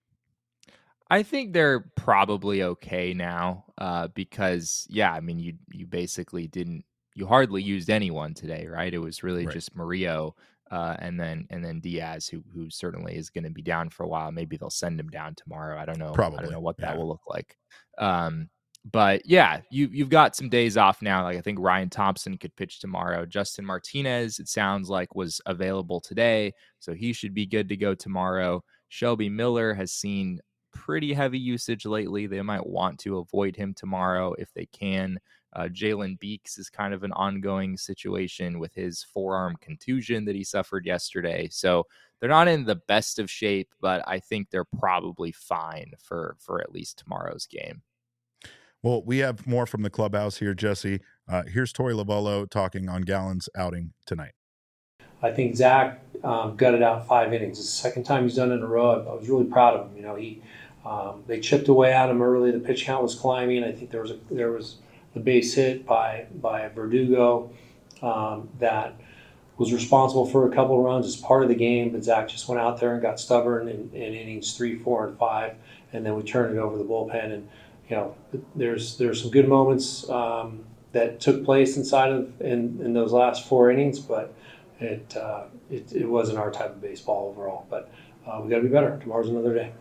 I think they're probably okay now, uh, because yeah, I mean you you basically didn't you hardly used anyone today, right? It was really
Right.
just Murillo, uh, and then and then Diaz, who who certainly is going to be down for a while. Maybe they'll send him down tomorrow. I don't know. I
Probably,
don't know what that
yeah.
will look like. Um, but yeah, you you've got some days off now. Like I think Ryan Thompson could pitch tomorrow. Justin Martinez, it sounds like, was available today, so he should be good to go tomorrow. Shelby Miller has seen pretty heavy usage lately. They might want to avoid him tomorrow if they can. Uh, Jalen Beeks is kind of an ongoing situation with his forearm contusion that he suffered yesterday. So they're not in the best of shape, but I think they're probably fine for, for at least tomorrow's game.
Well, we have more from the clubhouse here, Jesse. Uh, here's Torey Lovullo talking on Gallen's outing tonight.
I think Zach um, gutted out five innings. It's the second time he's done it in a row. I was really proud of him. You know, he um, they chipped away at him early. The pitch count was climbing. I think there was a, there was the base hit by by Verdugo um, that was responsible for a couple of runs as part of the game. But Zach just went out there and got stubborn in, in innings three, four, and five, and then we turned it over the bullpen. And you know, there's there's some good moments um, that took place inside of in, in those last four innings, but It, uh, it it wasn't our type of baseball overall, but uh, we got to be better. Tomorrow's another day.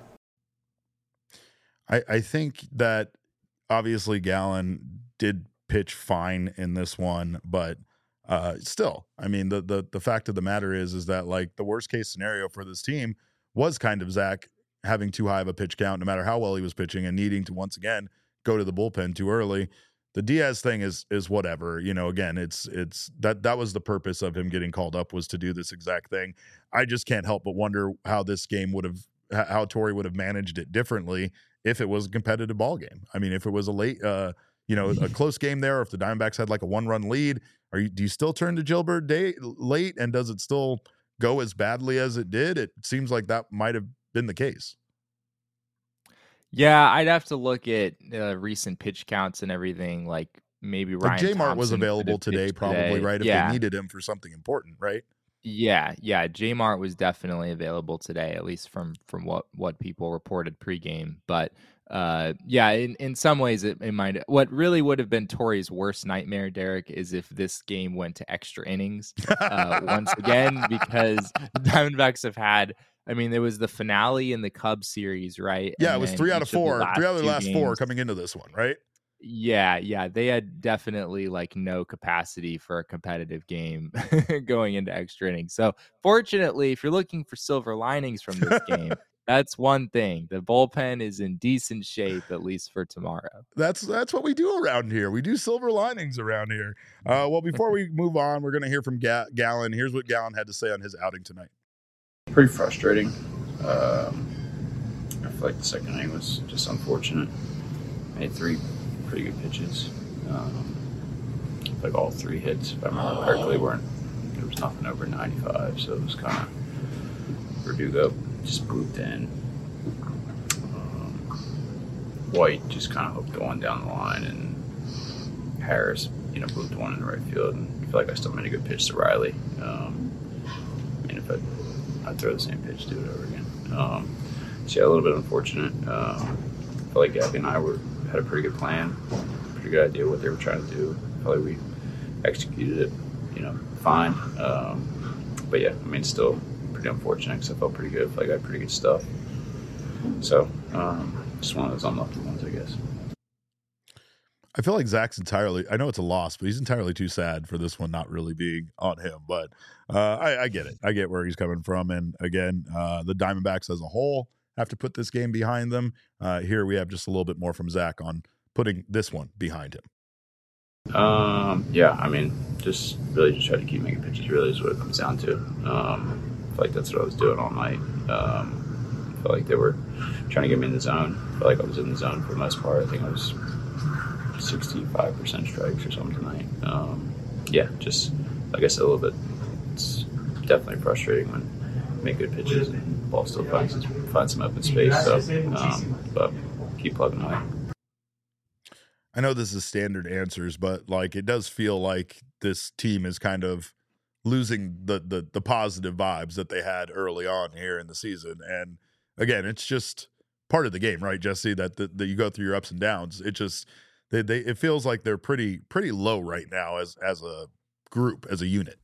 I, I think that obviously Gallen did pitch fine in this one, but uh, still, I mean, the, the the fact of the matter is, is that like the worst case scenario for this team was kind of Zach having too high of a pitch count, no matter how well he was pitching, and needing to once again go to the bullpen too early. The Diaz thing is is whatever, you know, again, it's it's that that was the purpose of him getting called up, was to do this exact thing. I just can't help but wonder how this game would have, how Torey would have managed it differently if it was a competitive ball game. I mean, if it was a late, uh, you know, a close game there, or if the Diamondbacks had like a one run lead, are you, do you still turn to Gilbert day late, and does it still go as badly as it did? It seems like that might have been the case.
Yeah, I'd have to look at uh, recent pitch counts and everything. Like maybe Ryan
Like J-Mart was
Thompson could
available
have
today,
pitched
probably,
today.
right? If
Yeah.
they needed him for something important, right?
Yeah, yeah. J-Mart was definitely available today, at least from from what what people reported pregame. But uh, yeah, in, in some ways, it, it might. What really would have been Torey's worst nightmare, Derek, is if this game went to extra innings uh, once again, because the Diamondbacks have had. I mean, there was the finale in the Cubs series, right?
Yeah,
And
it was
then
three out
each
of four,
the
three out of the
two
last four
games-
coming into this one, right?
Yeah, yeah, they had definitely like no capacity for a competitive game going into extra innings. So fortunately, if you're looking for silver linings from this game, that's one thing. The bullpen is in decent shape, at least for tomorrow.
That's that's what we do around here. We do silver linings around here. Uh, well, before we move on, we're going to hear from Ga- Gallen. Here's what Gallen had to say on his outing tonight.
Pretty frustrating. Um, I feel like the second inning was just unfortunate. Made three pretty good pitches. Um, I feel like all three hits, if I remember correctly, weren't. There was nothing over ninety-five, so it was kind of Verdugo just grouped in. Um, White just kind of hooked one down the line, and Harris, you know, moved one in the right field. And I feel like I still made a good pitch to Riley. Um, I mean, if I I'd throw the same pitch, do it over again. Um, so yeah, a little bit unfortunate. Um, I felt like Gabby and I were had a pretty good plan, pretty good idea what they were trying to do. I felt like we executed it, you know, fine. Um, but yeah, I mean, still pretty unfortunate because I felt pretty good. I felt like I had pretty good stuff. So um, just one of those unlucky ones, I guess.
I feel like Zach's entirely, I know it's a loss, but he's entirely too sad for this one not really being on him. But uh, I, I get it. I get where he's coming from. And again, uh, the Diamondbacks as a whole have to put this game behind them. Uh, here we have just a little bit more from Zach on putting this one behind him.
Um, yeah, I mean, just really just try to keep making pitches. Really is what it comes down to. Um, I feel like that's what I was doing all night. Um, I felt like they were trying to get me in the zone. I feel like I was in the zone for the most part. I think I was sixty-five percent strikes or something tonight. Um, yeah, just like I said, a little bit. It's definitely frustrating when you make good pitches and the ball still finds finds some open space. So, um, but keep plugging away.
I know this is standard answers, but like it does feel like this team is kind of losing the the the positive vibes that they had early on here in the season. And again, it's just part of the game, right, Jesse? That that, that you go through your ups and downs. It just they, they it feels like they're pretty pretty low right now as as a group, as a unit.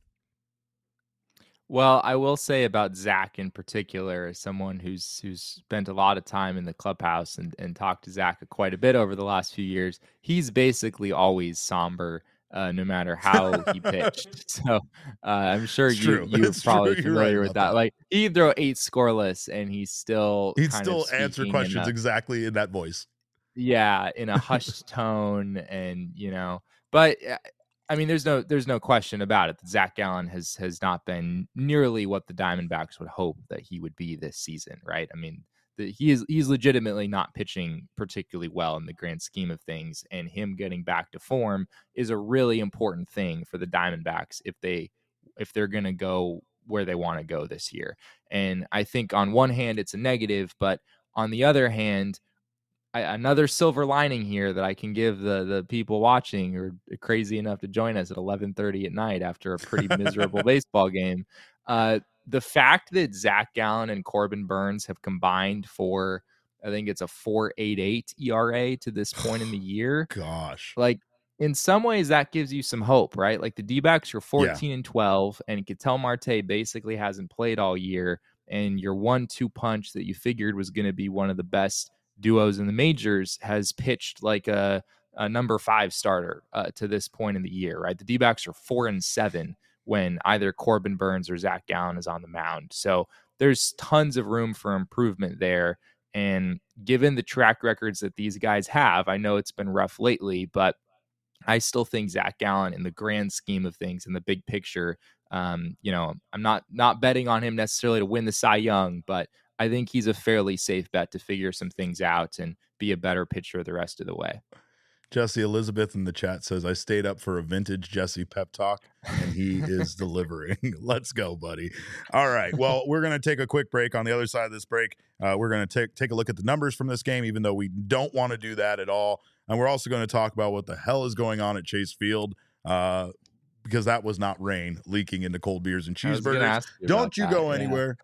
Well, I will say about Zach in particular, as someone who's who's spent a lot of time in the clubhouse and, and talked to Zach quite a bit over the last few years, he's basically always somber, uh, no matter how he pitched. So uh, I'm sure
It's
you
true.
you're
It's
probably
true. You're
familiar
right
with
about
that.
that.
Like he'd throw eight scoreless and he's still
He'd
kind
still
of
answer
speaking in
questions
a-
exactly in that voice.
yeah, in a hushed tone, and you know, but uh, I mean, there's no there's no question about it that Zach Gallen has has not been nearly what the Diamondbacks would hope that he would be this season, right? I mean, the, he is he's legitimately not pitching particularly well in the grand scheme of things, and him getting back to form is a really important thing for the Diamondbacks if they if they're going to go where they want to go this year. And I think on one hand it's a negative, but on the other hand, I, another silver lining here that I can give the the people watching who are crazy enough to join us at eleven thirty at night after a pretty miserable baseball game. Uh, the fact that Zach Gallen and Corbin Burnes have combined for, I think it's a four point eight eight E R A to this point in the year.
Gosh.
Like in some ways that gives you some hope, right? Like the D-backs are fourteen and twelve, and Ketel Marte basically hasn't played all year, and your one two punch that you figured was going to be one of the best duos in the majors has pitched like a, a number five starter uh, to this point in the year, right? The D-backs are four and seven when either Corbin Burnes or Zach Gallen is on the mound. So there's tons of room for improvement there. And given the track records that these guys have, I know it's been rough lately, but I still think Zach Gallen, in the grand scheme of things, in the big picture, um, you know, I'm not not betting on him necessarily to win the Cy Young, but I think he's a fairly safe bet to figure some things out and be a better pitcher the rest of the way.
Jesse Elizabeth in the chat says, I stayed up for a vintage Jesse pep talk, and he is delivering. Let's go, buddy. All right. Well, we're going to take a quick break. On the other side of this break, uh, we're going to take take a look at the numbers from this game, even though we don't want to do that at all. And we're also going to talk about what the hell is going on at Chase Field, uh, because that was not rain leaking into cold beers and cheeseburgers. You don't you
that,
go
yeah.
anywhere.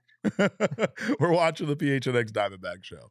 We're watching the P H N X Diamondback show.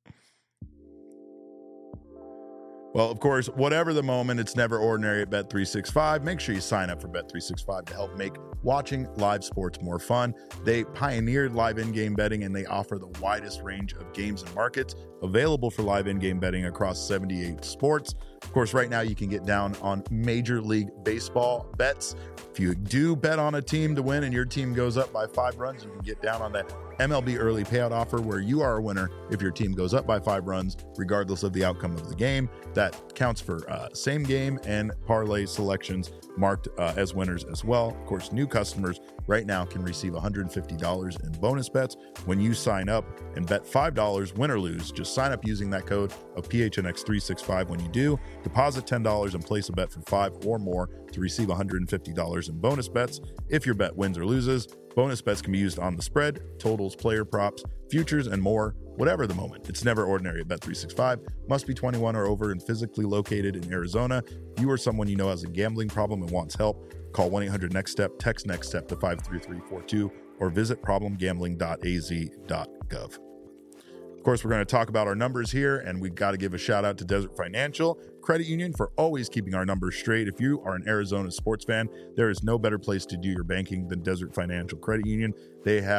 Well, of course, whatever the moment, it's never ordinary at Bet three sixty-five. Make sure you sign up for Bet three sixty-five to help make watching live sports more fun. They pioneered live in-game betting, and they offer the widest range of games and markets available for live in-game betting across seventy-eight sports. Of course, right now you can get down on Major League Baseball bets. If you do bet on a team to win and your team goes up by five runs, you can get down on that M L B early payout offer where you are a winner if your team goes up by five runs, regardless of the outcome of the game. That counts for uh, same game and parlay selections marked uh, as winners as well. Of course, new customers right now can receive one hundred fifty dollars in bonus bets when you sign up and bet five dollars, win or lose. Just sign up using that code of P H N X three sixty-five when you do. Deposit ten dollars and place a bet for five or more to receive one hundred fifty dollars in bonus bets if your bet wins or loses. Bonus bets can be used on the spread, totals, player props, futures, and more. Whatever the moment, it's never ordinary at Bet three sixty-five. Must be twenty-one or over and physically located in Arizona. If you or someone you know has a gambling problem and wants help, call one eight hundred next step, text next step to five three three four two, or visit problem gambling dot a z dot gov. Of course, we're going to talk about our numbers here, and we've got to give a shout out to Desert Financial Credit Union for always keeping our numbers straight. If you are an Arizona sports fan, there is no better place to do your banking than Desert Financial Credit Union. They have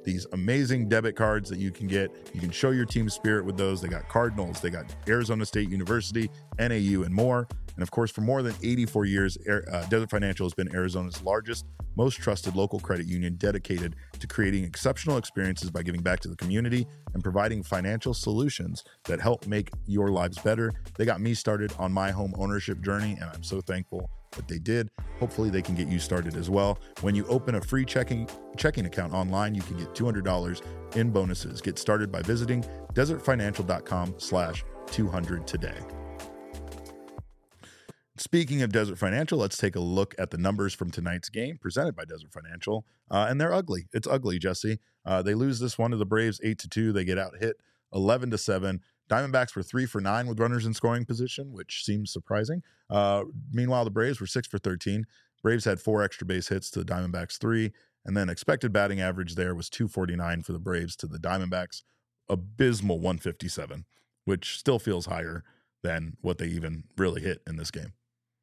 these amazing debit cards that you can get. You can show your team spirit with those. They got Cardinals, they got Arizona State University, N A U, and more. And of course, for more than eighty-four years, uh, Desert Financial has been Arizona's largest, most trusted local credit union, dedicated to creating exceptional experiences by giving back to the community and providing financial solutions that help make your lives better. They got me started on my home ownership journey, and I'm so thankful that they did. Hopefully they can get you started as well. When you open a free checking checking account online, you can get two hundred dollars in bonuses. Get started by visiting desertfinancial.com slash 200 today. Speaking of Desert Financial, let's take a look at the numbers from tonight's game presented by Desert Financial. Uh, and they're ugly. It's ugly, Jesse. Uh, they lose this one to the Braves eight to two. They get out hit eleven to seven. Diamondbacks were three for nine with runners in scoring position, which seems surprising. Uh, meanwhile, the Braves were six for thirteen. Braves had four extra base hits to the Diamondbacks three. And then expected batting average there was two forty-nine for the Braves to the Diamondbacks. Abysmal one fifty-seven, which still feels higher than what they even really hit in this game.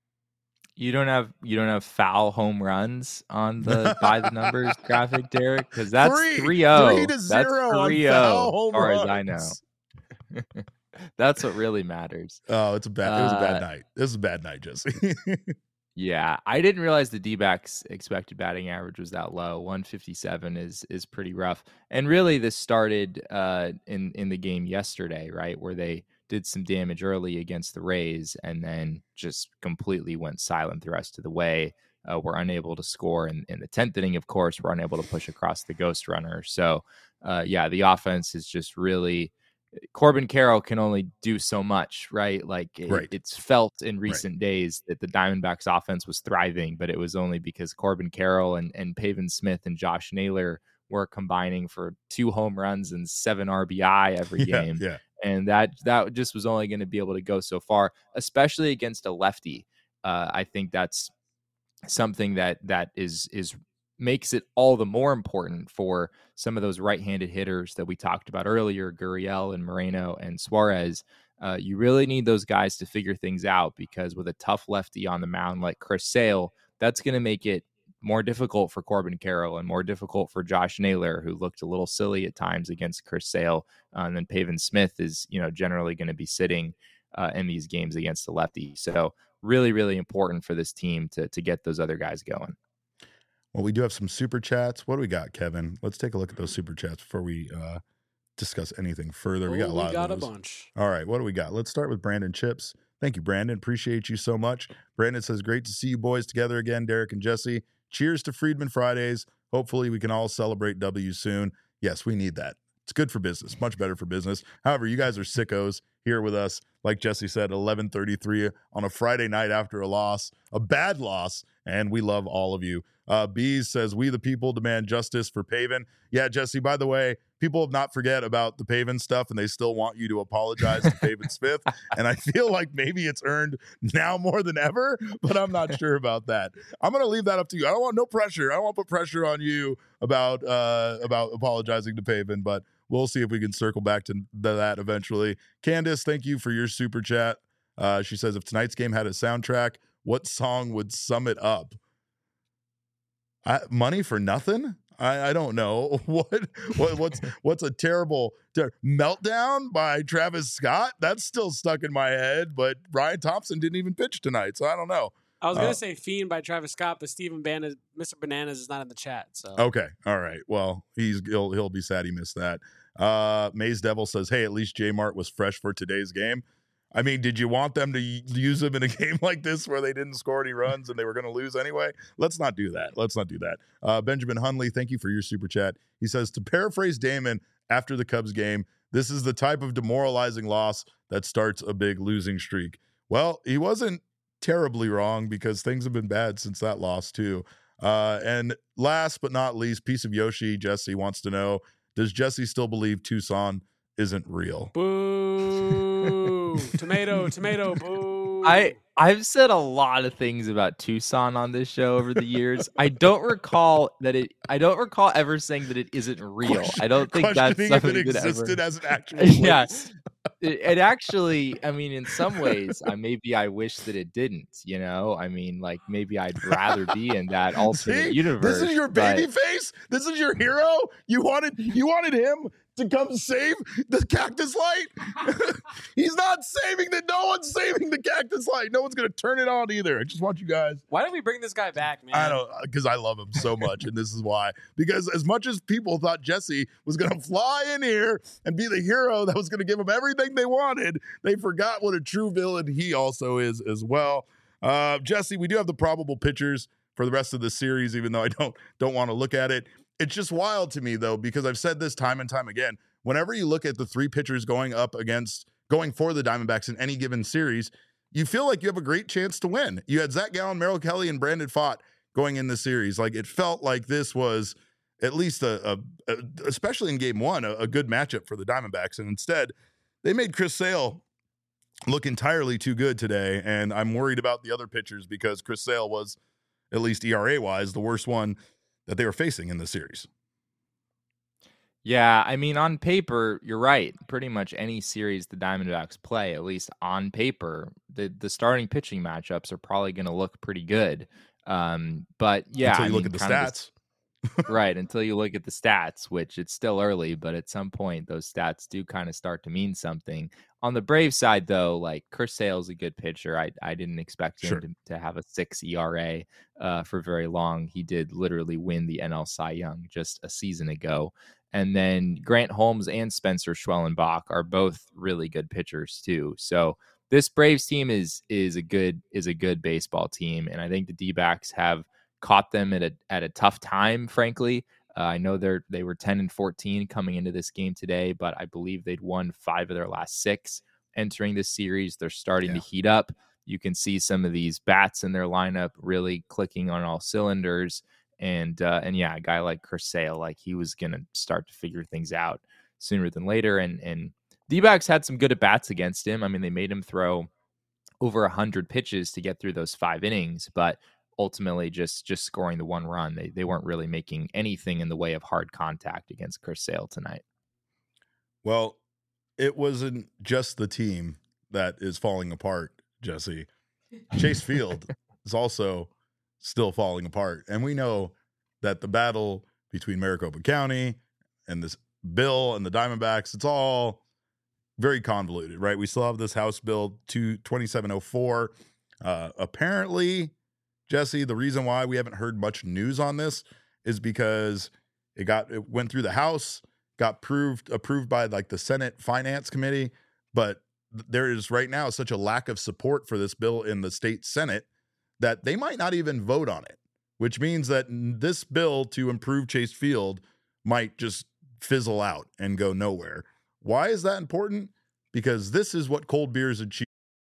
You don't have you don't have foul home runs on the by the numbers graphic, Derek, because that's three oh.
Three to zero
that's three
oh,
as far as I know. That's what really matters.
Oh, it's a bad. It was a bad
Uh,
night. This is a bad night, Jesse.
Yeah, I didn't realize the D-backs expected batting average was that low. one fifty-seven is is pretty rough. And really, this started uh, in in the game yesterday, right, where they did some damage early against the Rays and then just completely went silent the rest of the way. Uh, were unable to score in, in the tenth inning, of course. Were unable to push across the ghost runner. So, uh, yeah, the offense is just really Corbin Carroll can only do so much, right? Like it,
Right.
it's felt in recent right. days that the Diamondbacks offense was thriving, but it was only because Corbin Carroll and, and Pavin Smith and Josh Naylor were combining for two home runs and seven R B I every
Yeah,
game.
yeah.
And that, that just was only going to be able to go so far, especially against a lefty. Uh, I think that's something that, that is, is, makes it all the more important for some of those right-handed hitters that we talked about earlier, Gurriel and Moreno and Suarez. Uh, you really need those guys to figure things out, because with a tough lefty on the mound like Chris Sale, that's going to make it more difficult for Corbin Carroll and more difficult for Josh Naylor, who looked a little silly at times against Chris Sale. Uh, and then Pavin Smith is, you know, generally going to be sitting uh, in these games against the lefty. So really, really important for this team to to get those other guys going.
Well, we do have some super chats. What do we got, Kevin? Let's take a look at those super chats before we uh, discuss anything further. We got a
Oh,
lot
we got
of
a
those.
bunch.
All right, what do we got? Let's start with Brandon Chips. Thank you, Brandon. Appreciate you so much. Brandon says, great to see you boys together again, Derek and Jesse. Cheers to Friedman Fridays. Hopefully we can all celebrate W soon. Yes, we need that. It's good for business, much better for business. However, you guys are sickos here with us. Like Jesse said, eleven thirty-three on a Friday night after a loss, a bad loss, and we love all of you. Uh, Bees says, we the people demand justice for Pavin. Yeah, Jesse, by the way, people have not forget about the Pavin stuff, and they still want you to apologize to Pavin Smith. And I feel like maybe it's earned now more than ever, but I'm not sure about that. I'm going to leave that up to you. I don't want no pressure. I don't want to put pressure on you about uh, about apologizing to Pavin, but we'll see if we can circle back to that eventually. Candace, thank you for your super chat. Uh, she says, if tonight's game had a soundtrack, what song would sum it up? I, money for nothing? I, I don't know. What what what's what's a terrible ter- Meltdown by Travis Scott? That's still stuck in my head, but Ryan Thompson didn't even pitch tonight, so I don't know.
I was gonna
Uh,
say Fiend by Travis Scott, but Steven Bananas, Mister Bananas is not in the chat. So
Okay. All right. Well, he's he'll he'll be sad he missed that. Uh Maze Devil says, hey, at least J Mart was fresh for today's game. I mean, did you want them to y- use him in a game like this where they didn't score any runs and they were going to lose anyway? Let's not do that. Let's not do that. Uh, Benjamin Hunley, thank you for your super chat. He says, to paraphrase Damon after the Cubs game, this is the type of demoralizing loss that starts a big losing streak. Well, he wasn't terribly wrong, because things have been bad since that loss too. Uh, and last but not least, Piece of Yoshi, Jesse wants to know, does Jesse still believe Tucson isn't real?
boo, tomato, tomato, boo.
I I've said a lot of things about Tucson on this show over the years. I don't recall that it. I don't recall ever saying that it isn't real. I don't think that's
Questioning if
something
it
that
existed
ever.
as an actual place.
Yeah, it, it actually. I mean, in some ways, I maybe I wish that it didn't. You know, I mean, like maybe I'd rather be in that alternate
See?
universe.
This is your
but-
baby face. This is your hero. You wanted you wanted him to come save the cactus light. He's not saving the. No one's saving the cactus light. No one's gonna turn it on either. I just want you guys.
Why don't we bring this guy back, man?
I don't because I love him so much, and this is why. Because as much as people thought Jesse was gonna fly in here and be the hero that was gonna give them everything they wanted, they forgot what a true villain he also is as well. Uh, Jesse, we do have the probable pitchers for the rest of the series, even though I don't don't want to look at it. It's just wild to me, though, because I've said this time and time again. Whenever you look at the three pitchers going up against, going for the Diamondbacks in any given series, you feel like you have a great chance to win. You had Zach Gallen, Merrill Kelly, and Brandon Pfaadt going in the series. Like, it felt like this was at least a, a, a especially in game one, a, a good matchup for the Diamondbacks. And instead, they made Chris Sale look entirely too good today. And I'm worried about the other pitchers because Chris Sale was, at least E R A-wise, the worst one that they were facing in the series.
Yeah, I mean, on paper, you're right. Pretty much any series the Diamondbacks play, at least on paper, the, the starting pitching matchups are probably going to look pretty good. Um, but yeah,
until you
I
look
mean,
at the
kind of
stats.
right, until you look at the stats, which it's still early, but at some point those stats do kind of start to mean something. On the Brave side, though, like Chris Sale's a good pitcher. I I didn't expect him
Sure.
to, to have a six E R A uh, for very long. He did literally win the N L Cy Young just a season ago. And then Grant Holmes and Spencer Schwellenbach are both really good pitchers too. So this Braves team is is a good is a good baseball team, and I think the D-backs have caught them at a at a tough time, frankly. Uh, I know they're they were ten and fourteen coming into this game today, but I believe they'd won five of their last six entering this series. They're starting
Yeah.
to heat up. You can see some of these bats in their lineup really clicking on all cylinders. And uh, and yeah, a guy like Chris Sale, like he was gonna start to figure things out sooner than later. And and D-backs had some good at bats against him. I mean, they made him throw over a hundred pitches to get through those five innings, but ultimately just just scoring the one run. They they weren't really making anything in the way of hard contact against Chris Sale tonight.
Well, it wasn't just the team that is falling apart, Jesse. Chase Field is also still falling apart. And we know that the battle between Maricopa County and this bill and the Diamondbacks, it's all very convoluted, right? We still have this House Bill twenty-seven oh four. Uh, apparently, Jesse, the reason why we haven't heard much news on this is because it got it went through the House, got approved approved by like the Senate Finance Committee, but there is right now such a lack of support for this bill in the state Senate that they might not even vote on it, which means that this bill to improve Chase Field might just fizzle out and go nowhere. Why is that important? Because this is what cold beers and cheese.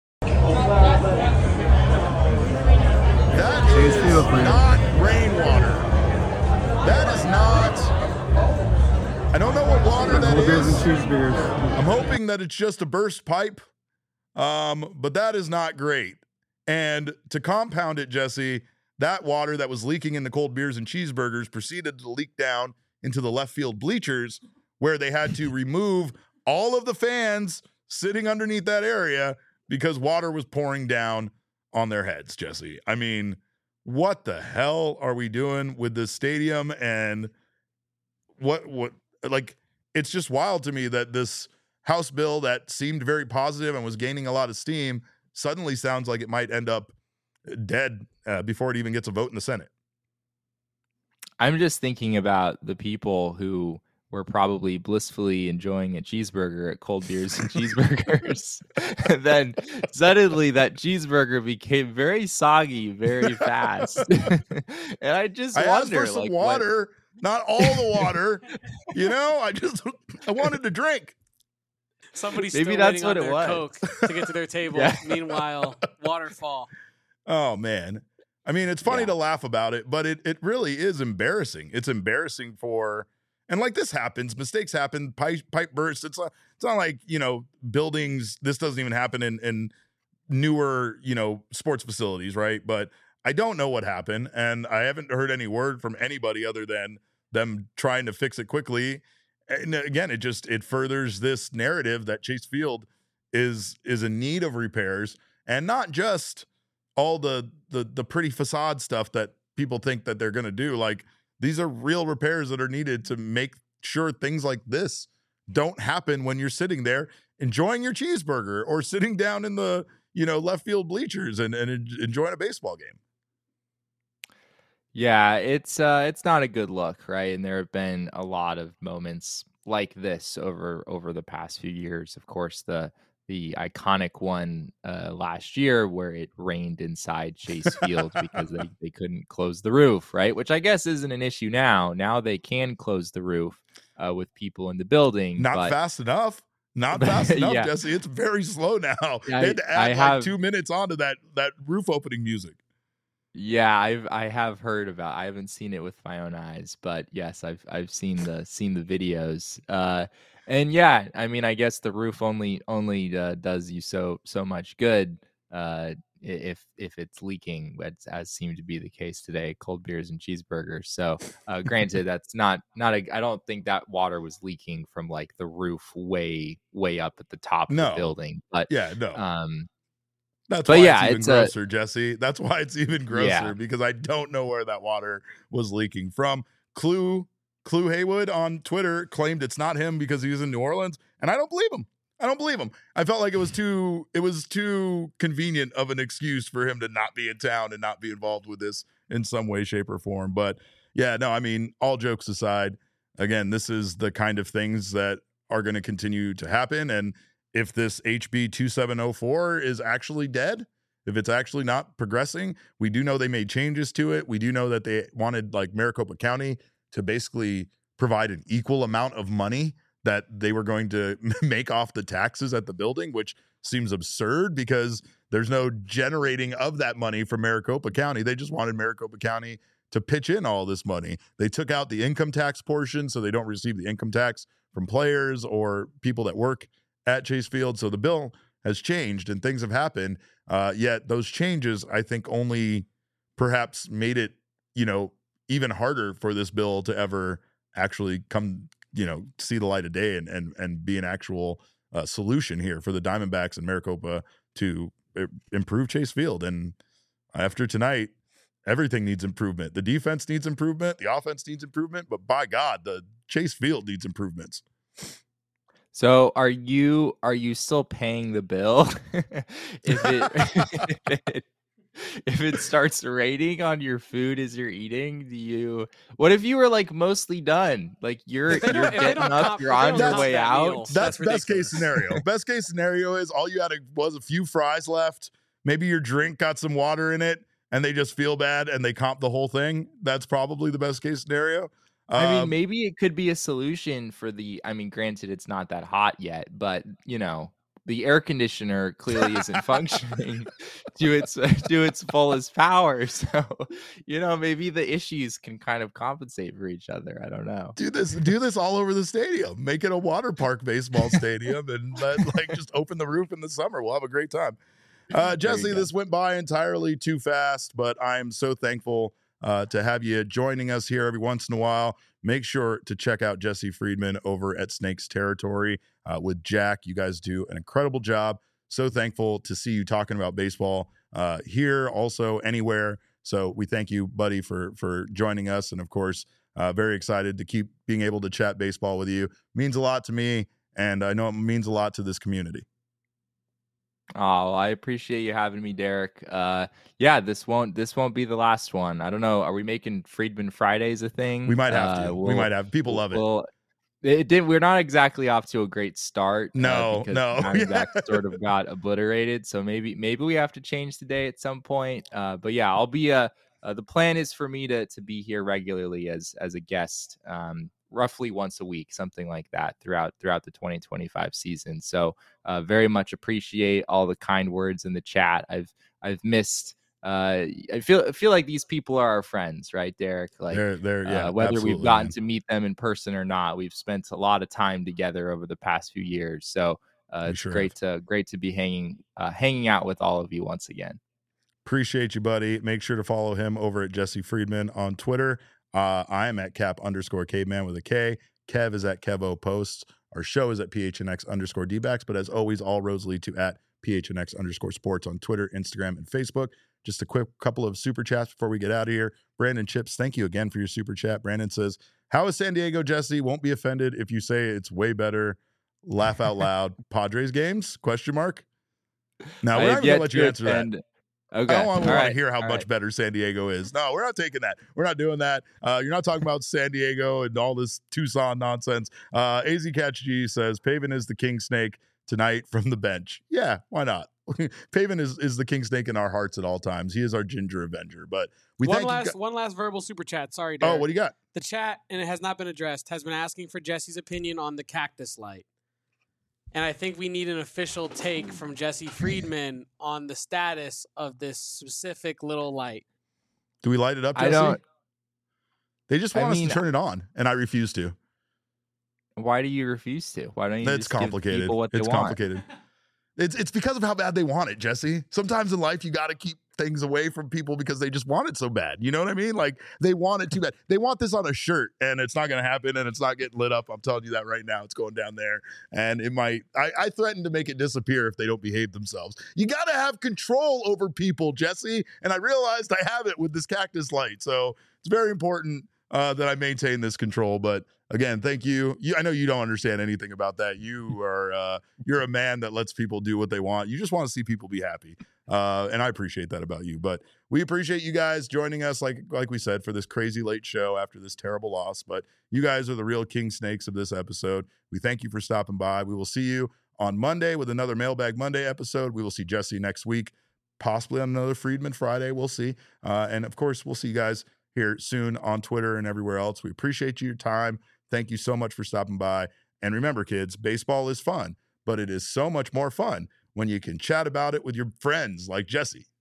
That is not rainwater. That is not. I don't know what water that is. I'm hoping that it's just a burst pipe, um, but that is not great. And to compound it, Jesse, that water that was leaking in the cold beers and cheeseburgers proceeded to leak down into the left field bleachers, where they had to remove all of the fans sitting underneath that area because water was pouring down on their heads, Jesse. I mean, what the hell are we doing with this stadium? And what, what, like, it's just wild to me that this House bill that seemed very positive and was gaining a lot of steam suddenly sounds like it might end up dead uh, before it even gets a vote in the Senate.
I'm just thinking about the people who were probably blissfully enjoying a cheeseburger at Cold Beers and Cheeseburgers. And then suddenly that cheeseburger became very soggy very fast. And I just
I
wonder,
asked for some
like,
water, what... not all the water. You know, I just I wanted to drink.
Somebody's
Maybe
still
that's
waiting
what
on
it
their
was.
Coke to get to their table.
Yeah.
Meanwhile, waterfall.
Oh man. I mean, it's funny
Yeah.
to laugh about it, but it it really is embarrassing. It's embarrassing for, and like this happens, mistakes happen, pipe, pipe bursts. It's not, it's not like, you know, buildings. This doesn't even happen in, in newer, you know, sports facilities, right? But I don't know what happened, and I haven't heard any word from anybody other than them trying to fix it quickly. And again, it just it furthers this narrative that Chase Field is is in need of repairs, and not just all the the the pretty facade stuff that people think that they're going to do. Like, these are real repairs that are needed to make sure things like this don't happen when you're sitting there enjoying your cheeseburger or sitting down in the, you know, left field bleachers and, and enjoying a baseball game.
Yeah, it's uh it's not a good look, right? And there have been a lot of moments like this over over the past few years. Of course, the the iconic one uh, last year where it rained inside Chase Field because they, they couldn't close the roof, right? Which I guess isn't an issue now. Now they can close the roof uh, with people in the building.
Not
but...
fast enough. Not fast enough,
yeah.
Jesse. It's very slow now.
I,
they had to add
I
like
have...
two minutes onto that that roof opening music.
Yeah, I've I have heard about. I haven't seen it with my own eyes, but yes, I've I've seen the seen the videos. Uh, and yeah, I mean, I guess the roof only only uh, does you so so much good uh, if if it's leaking, as, as seemed to be the case today. Cold beers and cheeseburgers. So, uh, granted, that's not not a. I don't think that water was leaking from like the roof way way up at the top of
no.
the building. But
yeah, no.
Um,
That's
but
why
yeah,
it's even
it's
grosser,
a,
Jesse. That's why it's even grosser
yeah.
because I don't know where that water was leaking from. Clue Clue Haywood on Twitter claimed it's not him because he was in New Orleans, and I don't believe him. I don't believe him. I felt like it was too it was too convenient of an excuse for him to not be in town and not be involved with this in some way, shape, or form. But yeah, no, I mean, all jokes aside, again, this is the kind of things that are going to continue to happen, and if this H B twenty-seven oh four is actually dead, if it's actually not progressing, we do know they made changes to it. We do know that they wanted like Maricopa County to basically provide an equal amount of money that they were going to make off the taxes at the building, which seems absurd because there's no generating of that money from Maricopa County. They just wanted Maricopa County to pitch in all this money. They took out the income tax portion so they don't receive the income tax from players or people that work at Chase Field. So the bill has changed and things have happened. Uh, yet those changes, I think, only perhaps made it, you know, even harder for this bill to ever actually come, you know, see the light of day and and and be an actual uh, solution here for the Diamondbacks and Maricopa to uh, improve Chase Field. And after tonight, everything needs improvement. The defense needs improvement. The offense needs improvement. But by God, the Chase Field needs improvements.
So are you are you still paying the bill if it if it starts raining on your food as you're eating? Do you? What if you were like mostly done? Like you're
If they
you're
don't- if they
getting
don't
up,
comp-
you're
if they
on
don't
your
comp
way
that
out.
meal,
That's,
That's
best case
ridiculous.
scenario. Best case scenario is all you had was a few fries left. Maybe your drink got some water in it, and they just feel bad and they comp the whole thing. That's probably the best case scenario.
I mean,
Um,
maybe it could be a solution for the. I mean, granted, it's not that hot yet, but you know, the air conditioner clearly isn't functioning to its to its fullest power. So, you know, maybe the issues can kind of compensate for each other. I don't know.
do this, do this all over the stadium. Make it a water park baseball stadium, and let, like just open the roof in the summer. We'll have a great time. Uh, Jesse,
go.
this went by entirely too fast, but I'm so thankful uh, to have you joining us here every once in a while. Make sure to check out Jesse Friedman over at Snakes Territory uh, with Jack. You guys do an incredible job. So thankful to see you talking about baseball uh, here, also anywhere. So we thank you, buddy, for for joining us, and of course, uh, very excited to keep being able to chat baseball with you. Means a lot to me, and I know it means a lot to this community.
Oh, I appreciate you having me, Derek. Uh, yeah, this won't this won't be the last one. I don't know. Are we making Friedman Fridays a thing?
We might have
Uh,
to. we
we'll-
might have. People love it.
Well, it did. We're not exactly off to a great start. uh,
No,
because
no.
the Diamondbacks sort of got obliterated. So maybe maybe we have to change the day at some point. Uh, but yeah, I'll be a. Uh, the plan is for me to to be here regularly as as a guest, um, roughly once a week, something like that throughout throughout the twenty twenty-five season. So uh, very much appreciate all the kind words in the chat. I've I've missed. Uh, I feel I feel like these people are our friends, right, Derek? Like
they're, they're, yeah,
uh, whether we've
absolutely,
gotten
man.
to meet them in person or not, we've spent a lot of time together over the past few years. So uh,
We
it's
sure
great to great to be hanging uh, hanging out with all of you once again.
Appreciate you, buddy. Make sure to follow him over at Jesse Friedman on Twitter. Uh, I am at cap underscore caveman with a K. Kev is at Kevo Posts. Our show is at P H N X underscore D-backs. But as always, all roads lead to at P H N X underscore sports on Twitter, Instagram, and Facebook. Just a quick couple of super chats before we get out of here. Brandon Chips, thank you again for your super chat. Brandon says, how is San Diego, Jesse? Won't be offended if you say it's way better. Laugh out loud. Padres games? Question mark. Now, we're not going to let you answer
offend.
that.
Okay.
I don't want,
All
want
right.
to hear how
All
much
right.
better San Diego is. No, we're not taking that. We're not doing that. Uh, you're not talking about San Diego and all this Tucson nonsense. Uh, A Z Catch G says, Pavin is the king snake tonight from the bench. Yeah, why not? Pavin is, is the king snake in our hearts at all times. He is our ginger avenger. But we
one
thank
last
you. Go-
one last verbal super chat. Sorry,
oh,
Derek.
what do you got?
The chat, and it has not been addressed, has been asking for Jesse's opinion on the cactus light. And I think we need an official take from Jesse Friedman on the status of this specific little light.
Do we light it up,
I
Jesse?
don't-
They just
I
want
mean,
us to turn it on, and I refuse to.
Why do you refuse to? Why don't you
That's
just give
complicated.
people what
It's
they want?
complicated. It's it's because of how bad they want it, Jesse. Sometimes in life you got to keep things away from people because they just want it so bad. You know what I mean? Like they want it too bad. They want this on a shirt, and it's not going to happen, and it's not getting lit up. I'm telling you that right now. It's going down there, and it might. I, I threaten to make it disappear if they don't behave themselves. You got to have control over people, Jesse. And I realized I have it with this cactus light, so it's very important uh, that I maintain this control. But again, thank you. you. I know you don't understand anything about that. You are uh, you're a man that lets people do what they want. You just want to see people be happy, uh, and I appreciate that about you. But we appreciate you guys joining us, like like we said, for this crazy late show after this terrible loss. But you guys are the real king snakes of this episode. We thank you for stopping by. We will see you on Monday with another Mailbag Monday episode. We will see Jesse next week, possibly on another Friedman Friday. We'll see, uh, and of course, we'll see you guys here soon on Twitter and everywhere else. We appreciate your time. Thank you so much for stopping by. And remember, kids, baseball is fun, but it is so much more fun when you can chat about it with your friends like Jesse.